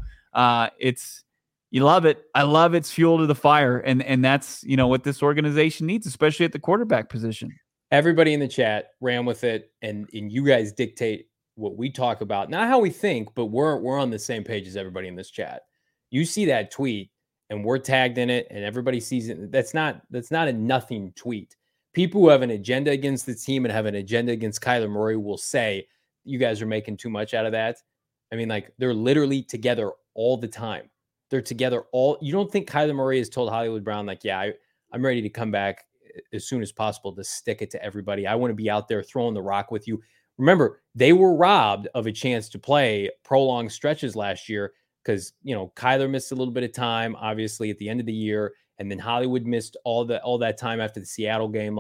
B: you love it. I love it's fuel to the fire. And that's, what this organization needs, especially at the quarterback position.
A: Everybody in the chat ran with it, and you guys dictate what we talk about, not how we think, but we're on the same page as everybody in this chat. You see that tweet and we're tagged in it and everybody sees it. That's not a nothing tweet. People who have an agenda against the team and have an agenda against Kyler Murray will say, you guys are making too much out of that. I mean, they're literally together all the time. They're together you don't think Kyler Murray has told Hollywood Brown, I'm ready to come back as soon as possible to stick it to everybody. I want to be out there throwing the rock with you. Remember, they were robbed of a chance to play prolonged stretches last year because, Kyler missed a little bit of time, obviously, at the end of the year. And then Hollywood missed all that time after the Seattle game.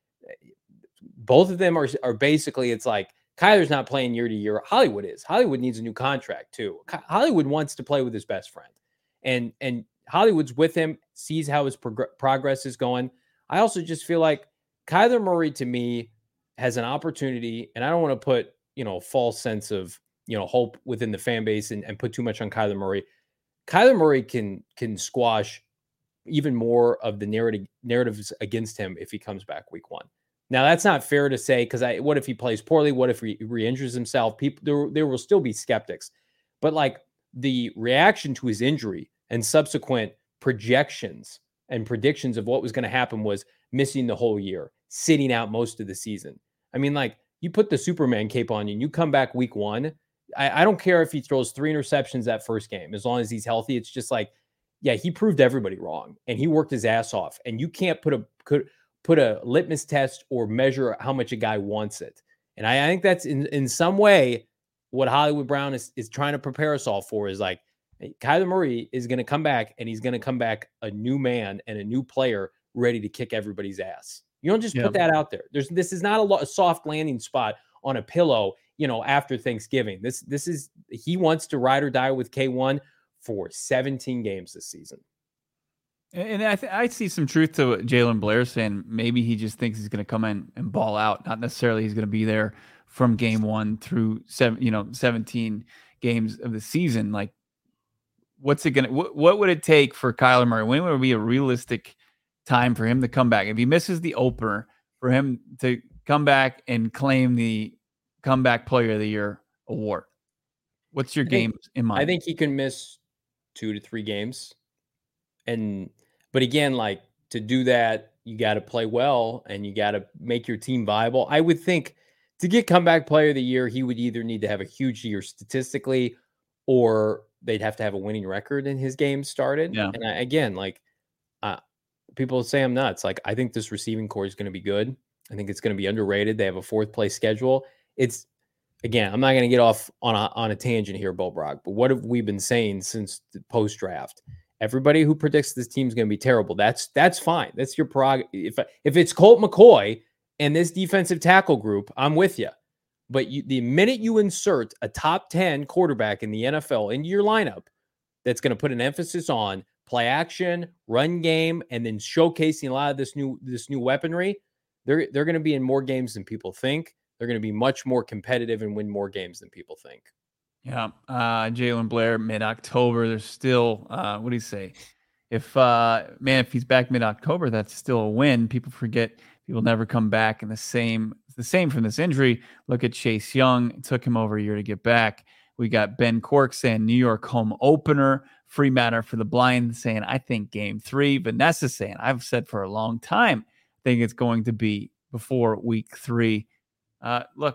A: Both of them are basically, it's like Kyler's not playing year to year. Hollywood is. Hollywood needs a new contract too. Hollywood wants to play with his best friend. And Hollywood's with him, sees how his progress is going. I also just feel like Kyler Murray, to me, has an opportunity, and I don't want to put, a false sense of, hope within the fan base and put too much on Kyler Murray. Kyler Murray can squash even more of the narratives against him if he comes back week 1. Now, that's not fair to say, because what if he plays poorly? What if he re-injures himself? There will still be skeptics. But the reaction to his injury and subsequent projections and predictions of what was going to happen was missing the whole year, sitting out most of the season. I mean, you put the Superman cape on you and you come back week 1. I don't care if he throws 3 interceptions that first game, as long as he's healthy. It's just he proved everybody wrong and he worked his ass off. And you can't put a litmus test or measure how much a guy wants it. And I think that's in some way what Hollywood Brown is trying to prepare us all for is Kyler Murray is going to come back, and he's going to come back a new man and a new player ready to kick everybody's ass. You don't just put that out there. This is not a soft landing spot on a pillow, after Thanksgiving. This is, he wants to ride or die with K1 for 17 games this season.
B: And I see some truth to what Jalen Blair saying. Maybe he just thinks he's going to come in and ball out. Not necessarily he's going to be there from game 1 through 17 games of the season. What's it going to, what would it take for Kyler Murray? When would it be a realistic time for him to come back? If he misses the opener, for him to come back and claim the Comeback Player of the Year award. What's your game in mind?
A: I think he can miss 2 to 3 games. But again, to do that, you got to play well and you got to make your team viable. I would think to get Comeback Player of the Year, he would either need to have a huge year statistically, or they'd have to have a winning record in his game started. Yeah. And people say I'm nuts. I think this receiving core is going to be good. I think it's going to be underrated. They have a 4th place schedule. I'm not going to get off on a tangent here, Bo Brock, but what have we been saying since the post-draft? Everybody who predicts this team's going to be terrible, that's fine. That's your prerogative. If it's Colt McCoy and this defensive tackle group, I'm with you. But the minute you insert a top 10 quarterback in the NFL into your lineup, that's going to put an emphasis on play action, run game, and then showcasing a lot of this new weaponry, they're going to be in more games than people think. They're going to be much more competitive and win more games than people think.
B: Yeah. Jalen Blair, mid-October. There's still, what do you say? If he's back mid-October, that's still a win. People forget he will never come back. And the same from this injury. Look at Chase Young. It took him over a year to get back. We got Ben Cork saying New York home opener. Free Matter for the Blind saying, I think game 3. Vanessa saying, I've said for a long time, I think it's going to be before week 3. Look,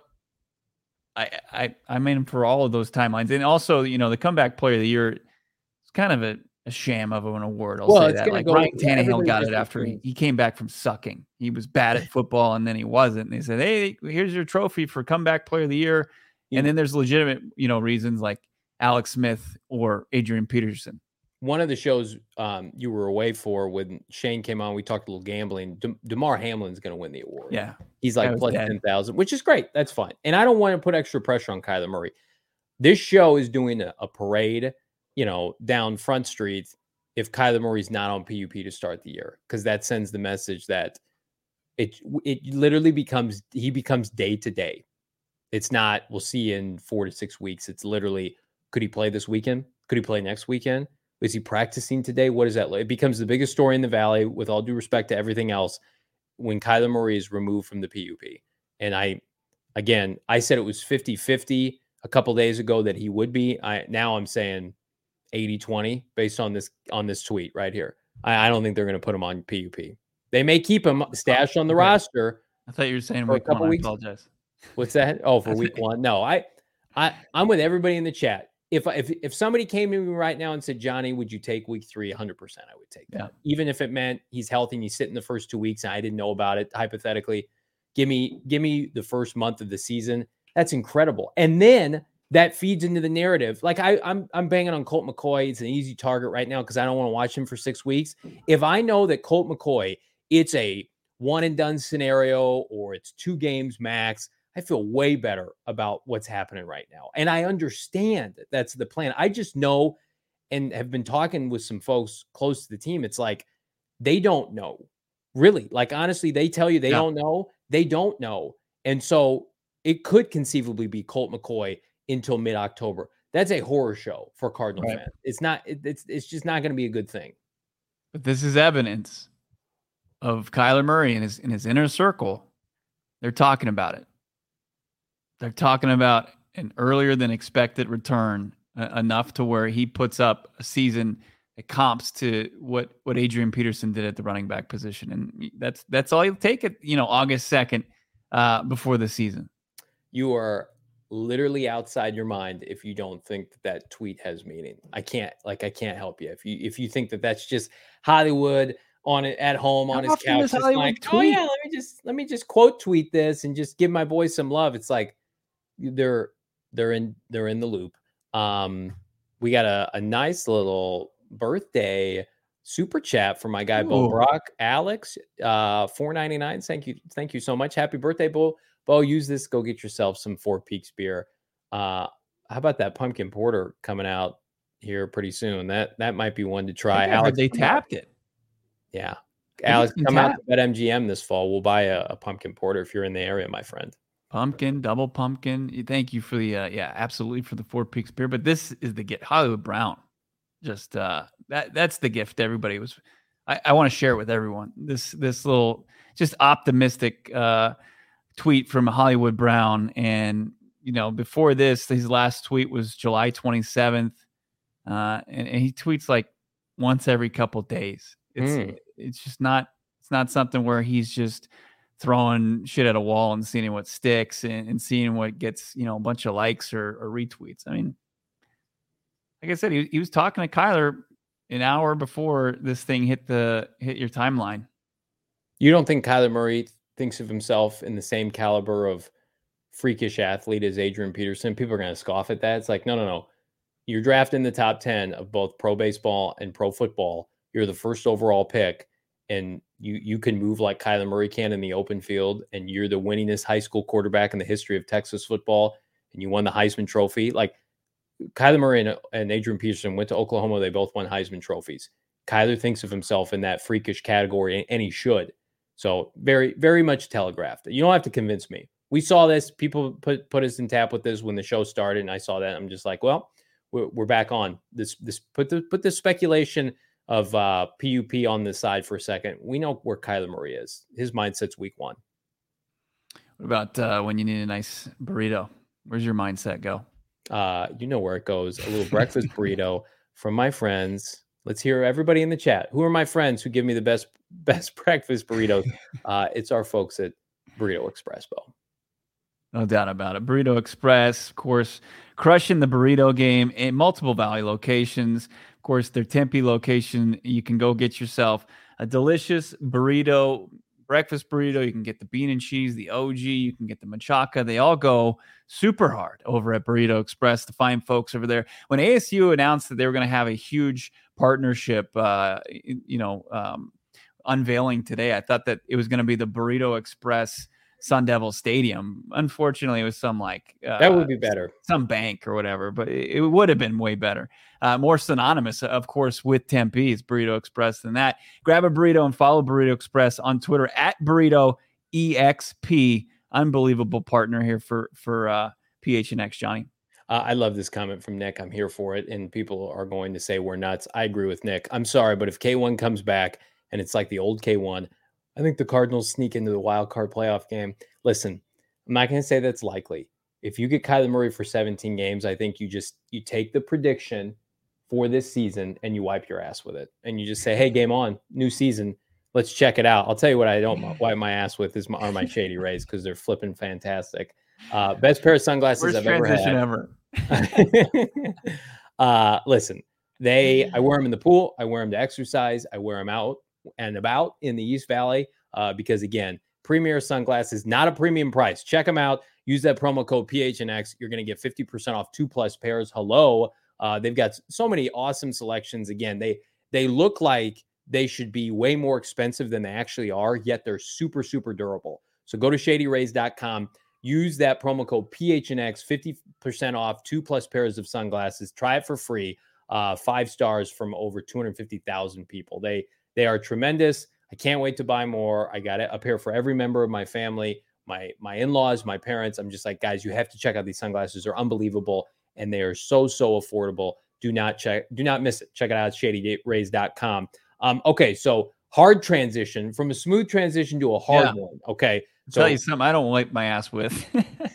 B: I'm in for all of those timelines. And also, the comeback player of the year is kind of a sham of an award. I'll say that. Like Ryan Tannehill got it after he came back from sucking. He was bad at football and then he wasn't. And they said, hey, here's your trophy for comeback player of the year. And then there's legitimate, reasons like Alex Smith or Adrian Peterson.
A: One of the shows you were away for when Shane came on, we talked a little gambling. DeMar Hamlin's going to win the award.
B: Yeah.
A: He's like plus 10,000, which is great. That's fine. And I don't want to put extra pressure on Kyler Murray. This show is doing a parade, down Front Street if Kyler Murray's not on PUP to start the year, because that sends the message that it literally becomes day to day. It's not, we'll see you in 4 to 6 weeks. It's literally, could he play this weekend? Could he play next weekend? Is he practicing today? What is that? It becomes the biggest story in the Valley, with all due respect to everything else, when Kyler Murray is removed from the PUP. And I said it was 50-50 a couple days ago that he would be. Now I'm saying 80-20 based on this tweet right here. I don't think they're going to put him on PUP. They may keep him stashed on the roster.
B: I thought you were saying
A: for a couple weeks.
B: I apologize.
A: What's that? Oh, for week 1. No, I'm with everybody in the chat. If somebody came to me right now and said, Johnny, would you take week 3? 100% I would take that. Yeah. Even if it meant he's healthy and he's sitting the first 2 weeks and I didn't know about it, hypothetically, give me the first month of the season. That's incredible. And then that feeds into the narrative. Like I'm banging on Colt McCoy. It's an easy target right now because I don't want to watch him for 6 weeks. If I know that Colt McCoy, it's a one and done scenario or it's 2 games max, I feel way better about what's happening right now. And I understand that that's the plan. I just know, and have been talking with some folks close to the team. It's like, they don't know really. Like, honestly, they tell you they don't know. They don't know. And so it could conceivably be Colt McCoy until mid-October. That's a horror show for Cardinal fans. It's not, it's just not going to be a good thing.
B: But this is evidence of Kyler Murray in his inner circle. They're talking about it. They're talking about an earlier than expected return, enough to where he puts up a season that comps to what Adrian Peterson did at the running back position. And that's all you'll take it, August 2nd before the season.
A: You are literally outside your mind if you don't think that tweet has meaning. I can't help you. If you think that that's just Hollywood on it at home on his couch, just like, oh yeah, let me just quote tweet this and just give my boys some love. It's like, they're in the loop. We got a nice little birthday super chat from my guy Bo Brock, Alex, $4.99. Thank you so much. Happy birthday, Bo. Use this. Go get yourself some Four Peaks beer. How about that pumpkin porter coming out here pretty soon? That might be one to try. Alex,
B: they tapped it.
A: Yeah, Alex, come out to BetMGM this fall. We'll buy a pumpkin porter if you're in the area, my friend.
B: Pumpkin, double pumpkin. Thank you for the absolutely for the Four Peaks beer. But this is the gift. Hollywood Brown. Just that's the gift everybody was. I want to share it with everyone. This little just optimistic tweet from Hollywood Brown. And before this, his last tweet was July 27th. And he tweets like once every couple days. It's just not something where he's just throwing shit at a wall and seeing what sticks and seeing what gets, a bunch of likes or retweets. I mean, like I said, he was talking to Kyler an hour before this thing hit your timeline.
A: You don't think Kyler Murray thinks of himself in the same caliber of freakish athlete as Adrian Peterson? People are going to scoff at that. It's like, no. You're drafted in the top 10 of both pro baseball and pro football. You're the first overall pick, and you can move like Kyler Murray can in the open field, and you're the winningest high school quarterback in the history of Texas football, and you won the Heisman Trophy. Like Kyler Murray and Adrian Peterson went to Oklahoma. They both won Heisman trophies. Kyler thinks of himself in that freakish category, and he should. So very, very much telegraphed. You don't have to convince me. We saw this. People put us in tap with this when the show started, and I saw that. I'm just like, well, we're back on this. Put the speculation of PUP on the side for a second. We know where Kyler Murray is. His mindset's week one.
B: What about when you need a nice burrito? Where's your mindset go?
A: You know where it goes. A little breakfast burrito from my friends. Let's hear everybody in the chat. Who are my friends who give me the best breakfast burritos? It's our folks at Burrito Express, Bo.
B: No doubt about it. Burrito Express, of course, crushing the burrito game in multiple Valley locations. Of course, their Tempe location, you can go get yourself a delicious burrito, breakfast burrito. You can get the bean and cheese, the OG. You can get the machaca. They all go super hard over at Burrito Express, the fine folks over there. When ASU announced that they were going to have a huge partnership, unveiling today, I thought that it was going to be the Burrito Express Sun Devil Stadium. Unfortunately, it was some
A: that would be better,
B: some bank or whatever, but it would have been way better. More synonymous, of course, with Tempe's Burrito Express than that. Grab a burrito and follow Burrito Express on Twitter at Burrito EXP. Unbelievable partner here for PHNX, Johnny.
A: I love this comment from Nick. I'm here for it, and people are going to say we're nuts. I agree with Nick. I'm sorry, but if K1 comes back and it's like the old K1, I think the Cardinals sneak into the wild card playoff game. Listen, I'm not going to say that's likely. If you get Kyler Murray for 17 games, I think you take the prediction for this season and you wipe your ass with it. And you just say, hey, game on, new season. Let's check it out. I'll tell you what I don't wipe my ass with are my Shady Rays, because they're flipping fantastic. Best pair of sunglasses I've ever had. Listen, I wear them in the pool. I wear them to exercise. I wear them out and about in the East Valley because, again, Premier sunglasses, not a premium price. Check them out. Use that promo code PHNX. You're going to get 50% off 2+ pairs. Hello. They've got so many awesome selections. Again, they look like they should be way more expensive than they actually are, yet they're super, super durable. So go to shadyrays.com. Use that promo code PHNX, 50% off 2+ pairs of sunglasses. Try it for free. 5 stars from over 250,000 people. They are tremendous. I can't wait to buy more. I got a pair for every member of my family, my in-laws, my parents. I'm just like, guys, you have to check out these sunglasses. They're unbelievable, and they are so, so affordable. Do not miss it. Check it out at shadyrays.com. Okay, so hard transition from a smooth transition to a hard one. Okay.
B: So, tell you something I don't wipe my ass with.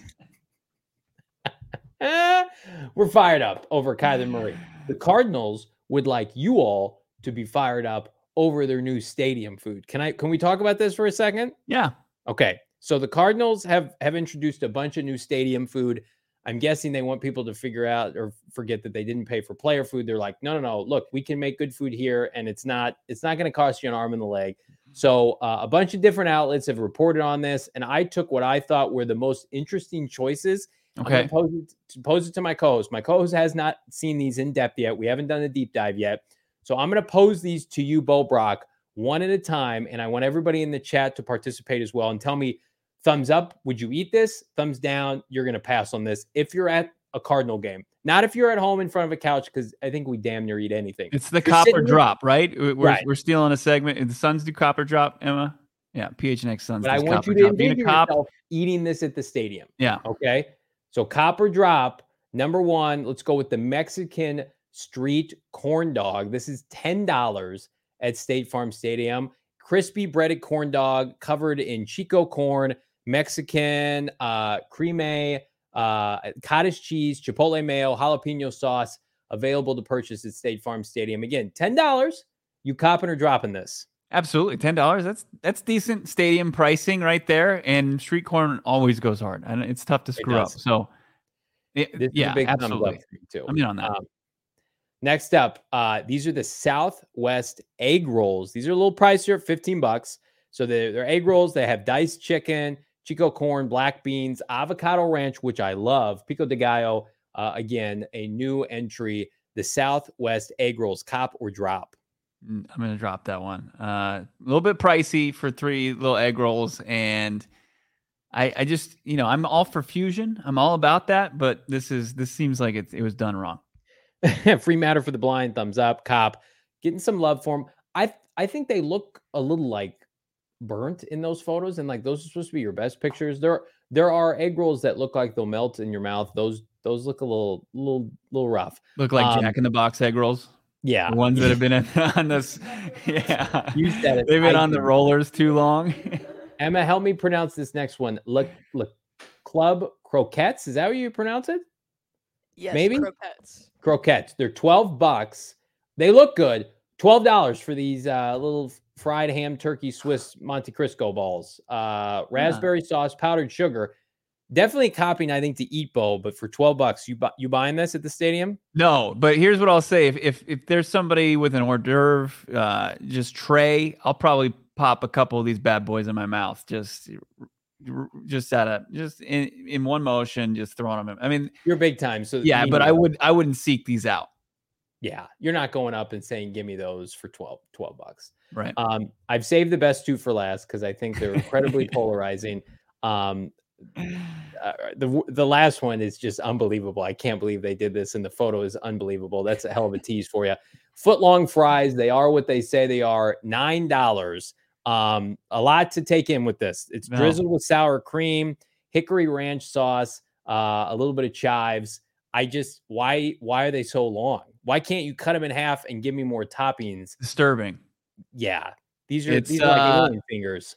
A: We're fired up over Kyler Murray. The Cardinals would like you all to be fired up over their new stadium food. Can we talk about this for a second?
B: Yeah.
A: Okay. So the Cardinals have introduced a bunch of new stadium food. I'm guessing they want people to figure out or forget that they didn't pay for player food. They're like, no. Look, we can make good food here, and it's not going to cost you an arm and a leg. So a bunch of different outlets have reported on this, and I took what I thought were the most interesting choices.
B: Okay.
A: I'm going to pose it to my co-host. My co-host has not seen these in depth yet. We haven't done a deep dive yet. So I'm going to pose these to you, Bo Brock, one at a time, and I want everybody in the chat to participate as well and tell me, thumbs up, would you eat this? Thumbs down, you're going to pass on this if you're at a Cardinal game. Not if you're at home in front of a couch, because I think we damn near eat anything.
B: It's the copper drop, right? We're stealing a segment. And the Suns do copper drop, Emma? Yeah, PHNX Suns.
A: But I want you to envision yourself eating this at the stadium.
B: Yeah.
A: Okay? So copper drop, number one, let's go with the Mexican street corn dog. This is $10 at State Farm Stadium. Crispy breaded corn dog covered in Chico corn, Mexican creme, cottage cheese, chipotle mayo, jalapeno sauce, available to purchase at State Farm Stadium. Again, $10. You copping or dropping this?
B: Absolutely, $10. That's decent stadium pricing right there. And street corn always goes hard, and it's tough to screw up. So,
A: this is a big
B: absolutely.
A: Thumbs up for me too.
B: I'm in on that.
A: Next up, these are the Southwest egg rolls. These are a little pricier, $15. So they're egg rolls. They have diced chicken, Chico corn, black beans, avocado ranch, which I love, pico de gallo, Again, a new entry, the Southwest egg rolls, cop or drop.
B: I'm going to drop that one. A little bit pricey for 3 little egg rolls. And I just, I'm all for fusion. I'm all about that. But this seems like it was done wrong.
A: Free matter for the blind, thumbs up. Cop, getting some love for them. I think they look a little like burnt in those photos, and like those are supposed to be your best pictures. There are egg rolls that look like they'll melt in your mouth. Those look a little rough.
B: Look like Jack in the Box egg rolls.
A: Yeah,
B: the ones that have been on this. Yeah,
A: you said it.
B: They've been on the rollers too long.
A: Emma, help me pronounce this next one. Look, Club Croquettes. Is that how you pronounce it?
F: Yes,
A: maybe
F: croquettes.
A: They're $12. They look good. $12 for these little fried ham turkey Swiss Monte Cristo balls. Raspberry sauce, powdered sugar. Definitely copying, I think, to Eat Bowl, but for $12, you buying this at the stadium?
B: No, but here's what I'll say: if there's somebody with an hors d'oeuvre, just tray, I'll probably pop a couple of these bad boys in my mouth, just in one motion, just throwing them in. I mean,
A: you're big time, so
B: yeah, but I wouldn't seek these out.
A: Yeah, you're not going up and saying, "Give me those for $12."
B: Right.
A: I've saved the best 2 for last because I think they're incredibly polarizing. The last one is just unbelievable. I can't believe they did this, and the photo is unbelievable. That's a hell of a tease for you. Foot-long fries. They are what they say they are. $9. A lot to take in with this. It's drizzled with sour cream, hickory ranch sauce, a little bit of chives. Why are they so long? Why can't you cut them in half and give me more toppings?
B: Disturbing.
A: Yeah, these are like alien fingers.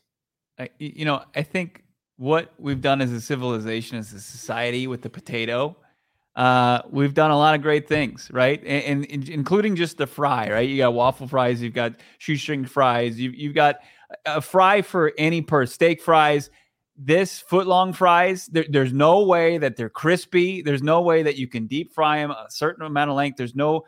B: I think what we've done as a civilization, as a society, with the potato, we've done a lot of great things, right? And including just the fry, right? You got waffle fries, you've got shoestring fries, you've got a fry for any steak fries. This foot-long fries, there's no way that they're crispy. There's no way that you can deep fry them a certain amount of length. There's no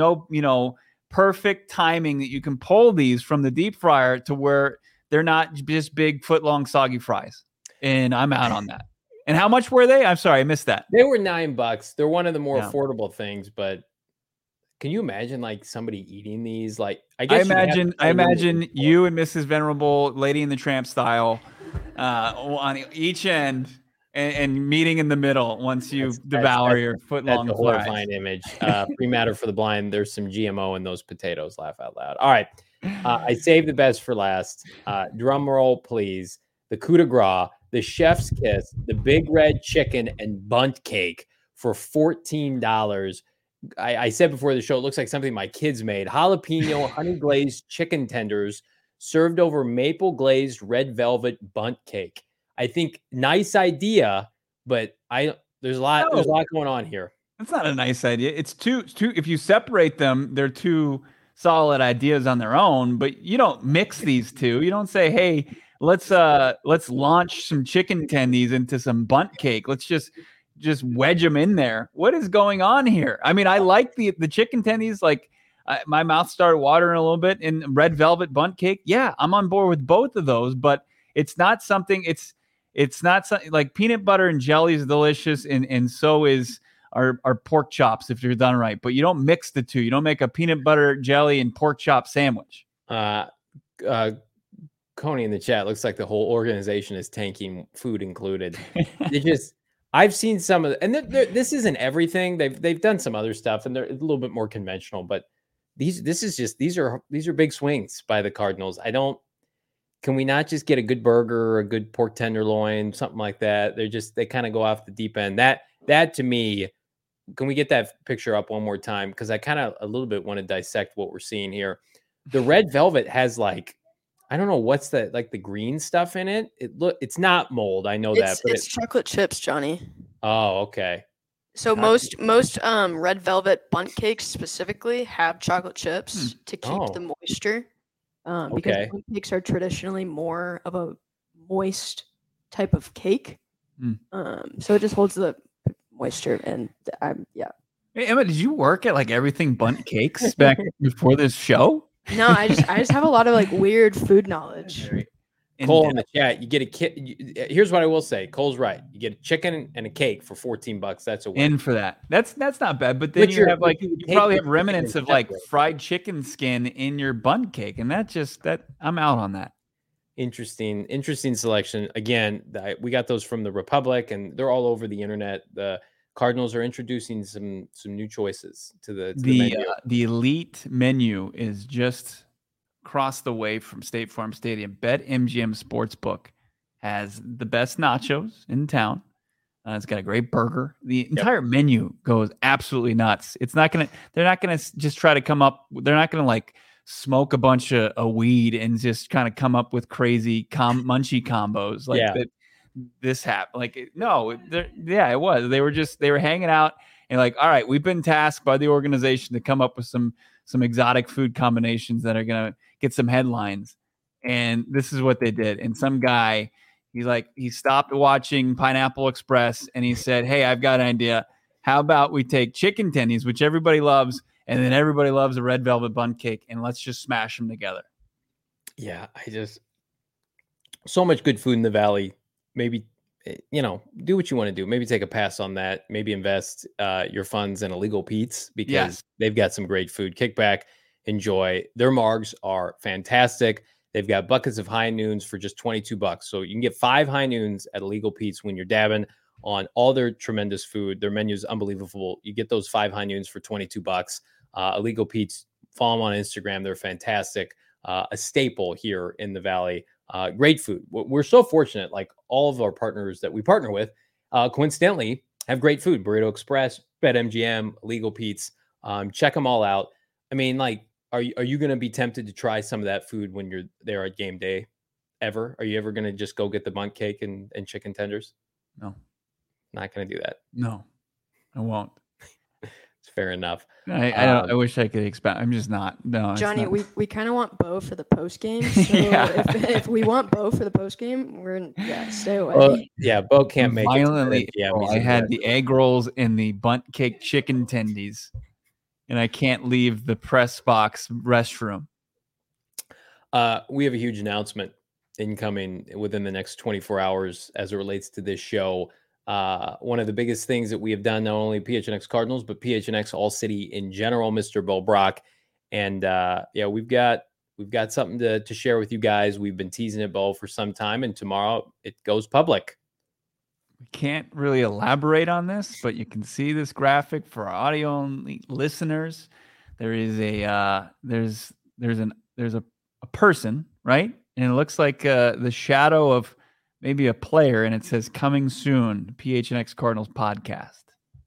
B: perfect timing that you can pull these from the deep fryer to where they're not just big foot-long soggy fries. And I'm out on that. And how much were they? I'm sorry, I missed that.
A: They were $9. They're one of the more affordable things, but can you imagine like somebody eating these? Like, I
B: imagine you and Mrs. Venerable, Lady in the Tramp style, on each end and meeting in the middle once you devour your foot-long
A: fries. That's a horrifying image. Free matter for the blind. There's some GMO in those potatoes. Laugh out loud. All right. I saved the best for last. Drum roll, please. The coup de grace, the chef's kiss, the big red chicken and bunt cake for $14. I said before the show, it looks like something my kids made. Jalapeno honey glazed chicken tenders served over maple glazed red velvet bunt cake. I think nice idea, but there's a lot going on here.
B: That's not a nice idea. It's two. If you separate them, they're two solid ideas on their own, but you don't mix these two. You don't say, hey, let's launch some chicken tendies into some bunt cake. Let's just wedge them in there. What is going on here? I mean, I like the chicken tendies. Like my mouth started watering a little bit. In red velvet bunt cake, yeah, I'm on board with both of those. But it's not something. It's not something like peanut butter and jelly is delicious, and so is our pork chops if you're done right. But you don't mix the two. You don't make a peanut butter jelly and pork chop sandwich.
A: Coney in the chat, looks like the whole organization is tanking, food included. I've seen some of and this isn't everything. They've done some other stuff, and they're a little bit more conventional. But these are big swings by the Cardinals. Can we not just get a good burger or a good pork tenderloin, something like that? They kind of go off the deep end. That to me, can we get that picture up one more time? Because I kind of a little bit want to dissect what we're seeing here. The red velvet has like, I don't know what's the green stuff in it. It's not mold. I know that, but
F: it's chocolate chips, Johnny.
A: Oh, okay.
F: So most red velvet bundt cakes specifically have chocolate chips to keep the moisture. Because bundt cakes are traditionally more of a moist type of cake. So it just holds the moisture, and
B: Hey, Emma, did you work at like everything bundt cakes back before this show?
F: No, I just have a lot of like weird food knowledge.
A: Cole in the chat, you get a kit. Here's what I will say. Cole's right. You get a chicken and a cake for $14. That's a win.
B: In for that. That's not bad. But then you probably have remnants of like fried chicken skin in your bun cake, and I'm out on that.
A: Interesting selection. Again, we got those from the Republic, and they're all over the internet. The Cardinals are introducing some new choices to the menu.
B: The elite menu is just across the way from State Farm Stadium. BetMGM Sportsbook has the best nachos in town. It's got a great burger. The entire menu goes absolutely nuts. They're not gonna just try to come up. They're not gonna like smoke a bunch of weed and just kind of come up with crazy munchie combos that. This happened. Like, no, it was. They were hanging out and like, all right, we've been tasked by the organization to come up with some exotic food combinations that are gonna get some headlines. And this is what they did. And some guy, he stopped watching Pineapple Express and he said, "Hey, I've got an idea. How about we take chicken tendies, which everybody loves, and then everybody loves a red velvet bun cake, and let's just smash them together."
A: Yeah, so much good food in the Valley. Maybe, do what you want to do. Maybe take a pass on that. Maybe invest your funds in Illegal Pete's because they've got some great food. Kick back, enjoy. Their margs are fantastic. They've got buckets of high noons for just $22. So you can get 5 high noons at Illegal Pete's when you're dabbing on all their tremendous food. Their menu is unbelievable. You get those 5 high noons for $22. Illegal Pete's, follow them on Instagram. They're fantastic. A staple here in the Valley. Great food. We're so fortunate. Like all of our partners that we partner with, coincidentally, have great food. Burrito Express, BetMGM, Illegal Pete's. Check them all out. I mean, like, are you going to be tempted to try some of that food when you're there at game day? Ever? Are you ever going to just go get the bundt cake and chicken tenders?
B: No,
A: not going to do that.
B: No, I won't.
A: It's fair enough.
B: I wish I could expect. I'm just not. No,
F: Johnny, we kind of want Bo for the post game. So if we want Bo for the post game, stay away.
A: Bo can't make
B: violently it. I had the egg rolls and the bundt cake chicken tendies, and I can't leave the press box restroom.
A: We have a huge announcement incoming within the next 24 hours as it relates to this show. One of the biggest things that we have done, not only PHNX Cardinals, but PHNX All City in general, Mr. Bo Brock. And we've got something to share with you guys. We've been teasing it, Bo, for some time, and tomorrow it goes public.
B: We can't really elaborate on this, but you can see this graphic for our audio only listeners. There is there's a person, right? And it looks like the shadow of maybe a player, and it says "Coming soon, PHNX Cardinals podcast."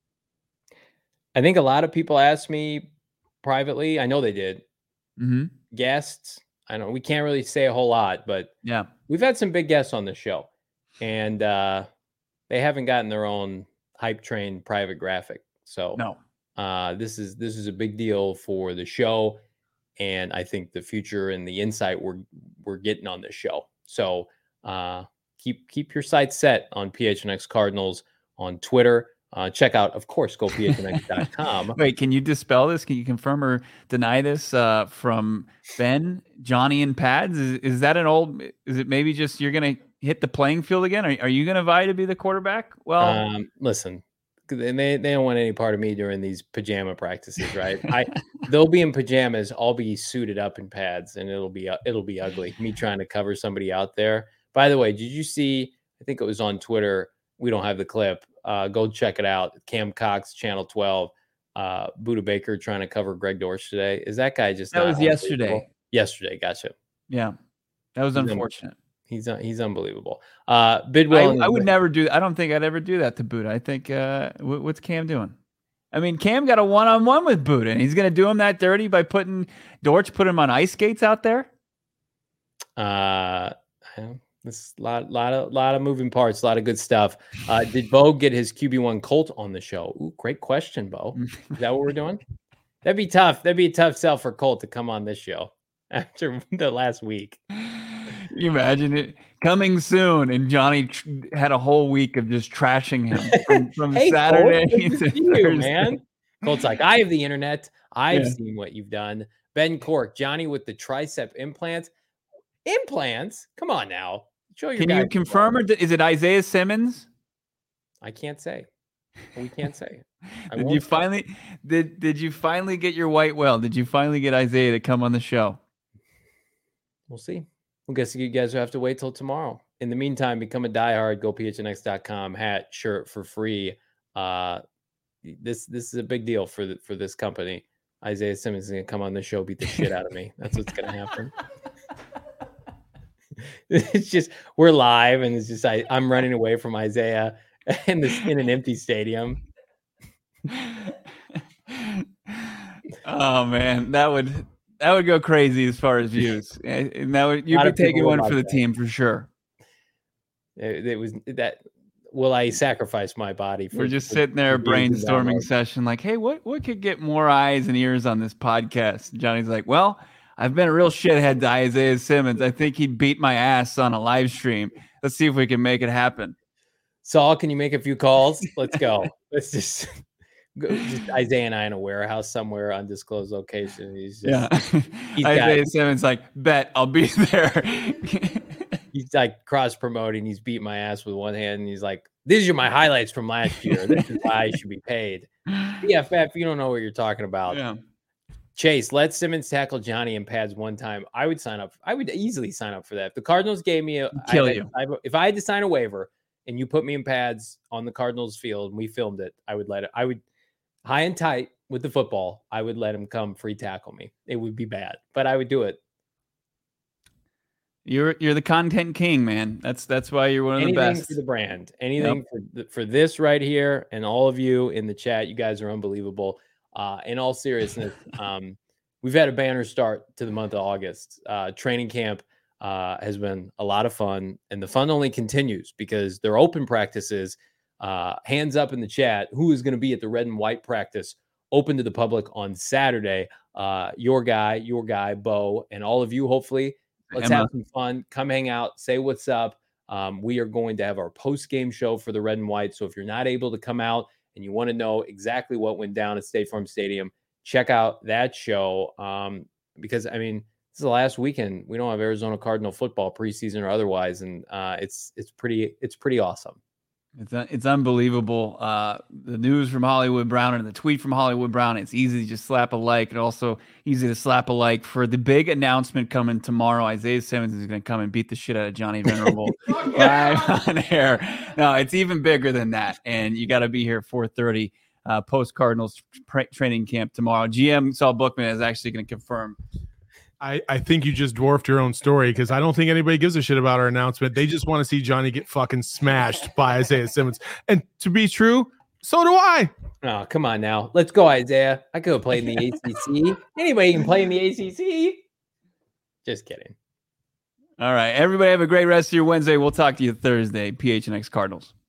A: I think a lot of people asked me privately. I know they did.
B: Mm-hmm.
A: Guests. I know we can't really say a whole lot, but we've had some big guests on the show, and they haven't gotten their own hype train private graphic. So this is a big deal for the show, and I think the future and the insight we're getting on this show. So keep your sights set on PHNX Cardinals on Twitter. Check out, of course, gophnx.com.
B: Wait, can you dispel this? Can you confirm or deny this from Ben, Johnny, and Pads? Is that is it maybe just you're going to hit the playing field again? Are you going to vie to be the quarterback? Well,
A: listen, they don't want any part of me during these pajama practices, right? They'll be in pajamas. I'll be suited up in pads, and it'll be ugly. Me trying to cover somebody out there. By the way, did you see, I think it was on Twitter. We don't have the clip. Go check it out. Cam Cox, Channel 12, Buda Baker trying to cover Greg Dortch today. Is that guy just?
B: That was yesterday.
A: Yesterday, gotcha.
B: Yeah, that was unfortunate.
A: He's unbelievable. Bidwell,
B: I would never do. I don't think I'd ever do that to Buda. I think what's Cam doing? I mean, Cam got a one-on-one with Buda, and he's going to do him that dirty by putting him on ice skates out there.
A: This lot of moving parts, a lot of good stuff. Did Bo get his QB1 Colt on the show? Ooh, great question, Bo. Is that what we're doing? That'd be tough. That'd be a tough sell for Colt to come on this show after the last week.
B: Can you imagine it coming soon? And Johnny had a whole week of just trashing him from
A: hey,
B: Saturday
A: Colt,
B: to
A: you, man. Colt's like, I have the internet. I've seen what you've done. Ben Cork, Johnny with the tricep implant. Implants? Come on now. Show your
B: Can you confirm, or is it Isaiah Simmons?
A: I can't say. We can't say.
B: Did you finally get your white whale? Did you finally get Isaiah to come on the show?
A: We'll see. I guess you guys will have to wait till tomorrow. In the meantime, become a diehard. Go phnx.com. Hat, shirt for free. This is a big deal for this company. Isaiah Simmons is going to come on the show, beat the shit out of me. That's what's going to happen. It's just we're live, and it's just I'm running away from Isaiah in an empty stadium.
B: Oh man, that would go crazy as far as views, and you'd be taking one for the team for sure.
A: It was that. Will I sacrifice my body?
B: We're just sitting there brainstorming session, like, hey, what could get more eyes and ears on this podcast? Johnny's like, well, I've been a real shithead to Isaiah Simmons. I think he'd beat my ass on a live stream. Let's see if we can make it happen.
A: Saul, can you make a few calls? Let's go. Let's just go. Just Isaiah and I in a warehouse somewhere, undisclosed location.
B: Isaiah Simmons like, bet I'll be there.
A: He's like cross promoting. He's beating my ass with one hand, and he's like, "These are my highlights from last year. This is why I should be paid." BFF, you don't know what you're talking about.
B: Yeah.
A: Chase, let Simmons tackle Johnny in pads one time. I would sign up. I would easily sign up for that. If the Cardinals gave me if I had to sign a waiver and you put me in pads on the Cardinals field and we filmed it, I would high and tight with the football. I would let him come free tackle me. It would be bad, but I would do it.
B: You're the content king, man. That's why you're one of the best.
A: Anything for the brand. Anything for this right here, and all of you in the chat. You guys are unbelievable. In all seriousness, we've had a banner start to the month of August. Training camp has been a lot of fun, and the fun only continues because they're open practices. Hands up in the chat. Who is going to be at the red and white practice open to the public on Saturday? Your guy, Bo, and all of you, hopefully. Let's have some fun. Come hang out. Say what's up. We are going to have our post-game show for the red and white. So if you're not able to come out and you want to know exactly what went down at State Farm Stadium, check out that show. Because, I mean, this is the last weekend. We don't have Arizona Cardinal football, preseason or otherwise. And it's pretty awesome.
B: It's unbelievable. The news from Hollywood Brown and the tweet from Hollywood Brown. It's easy to just slap a like, and also easy to slap a like for the big announcement coming tomorrow. Isaiah Simmons is going to come and beat the shit out of Johnny Venerable live on air. No, it's even bigger than that, and you got to be here 4:30 post Cardinals training camp tomorrow. GM Saul Bookman is actually going to confirm.
G: I think you just dwarfed your own story because I don't think anybody gives a shit about our announcement. They just want to see Johnny get fucking smashed by Isaiah Simmons. And to be true, so do I.
A: Oh, come on now. Let's go, Isaiah. I could play in the ACC. Anybody can play in the ACC. Just kidding.
B: All right. Everybody have a great rest of your Wednesday. We'll talk to you Thursday. PHNX Cardinals.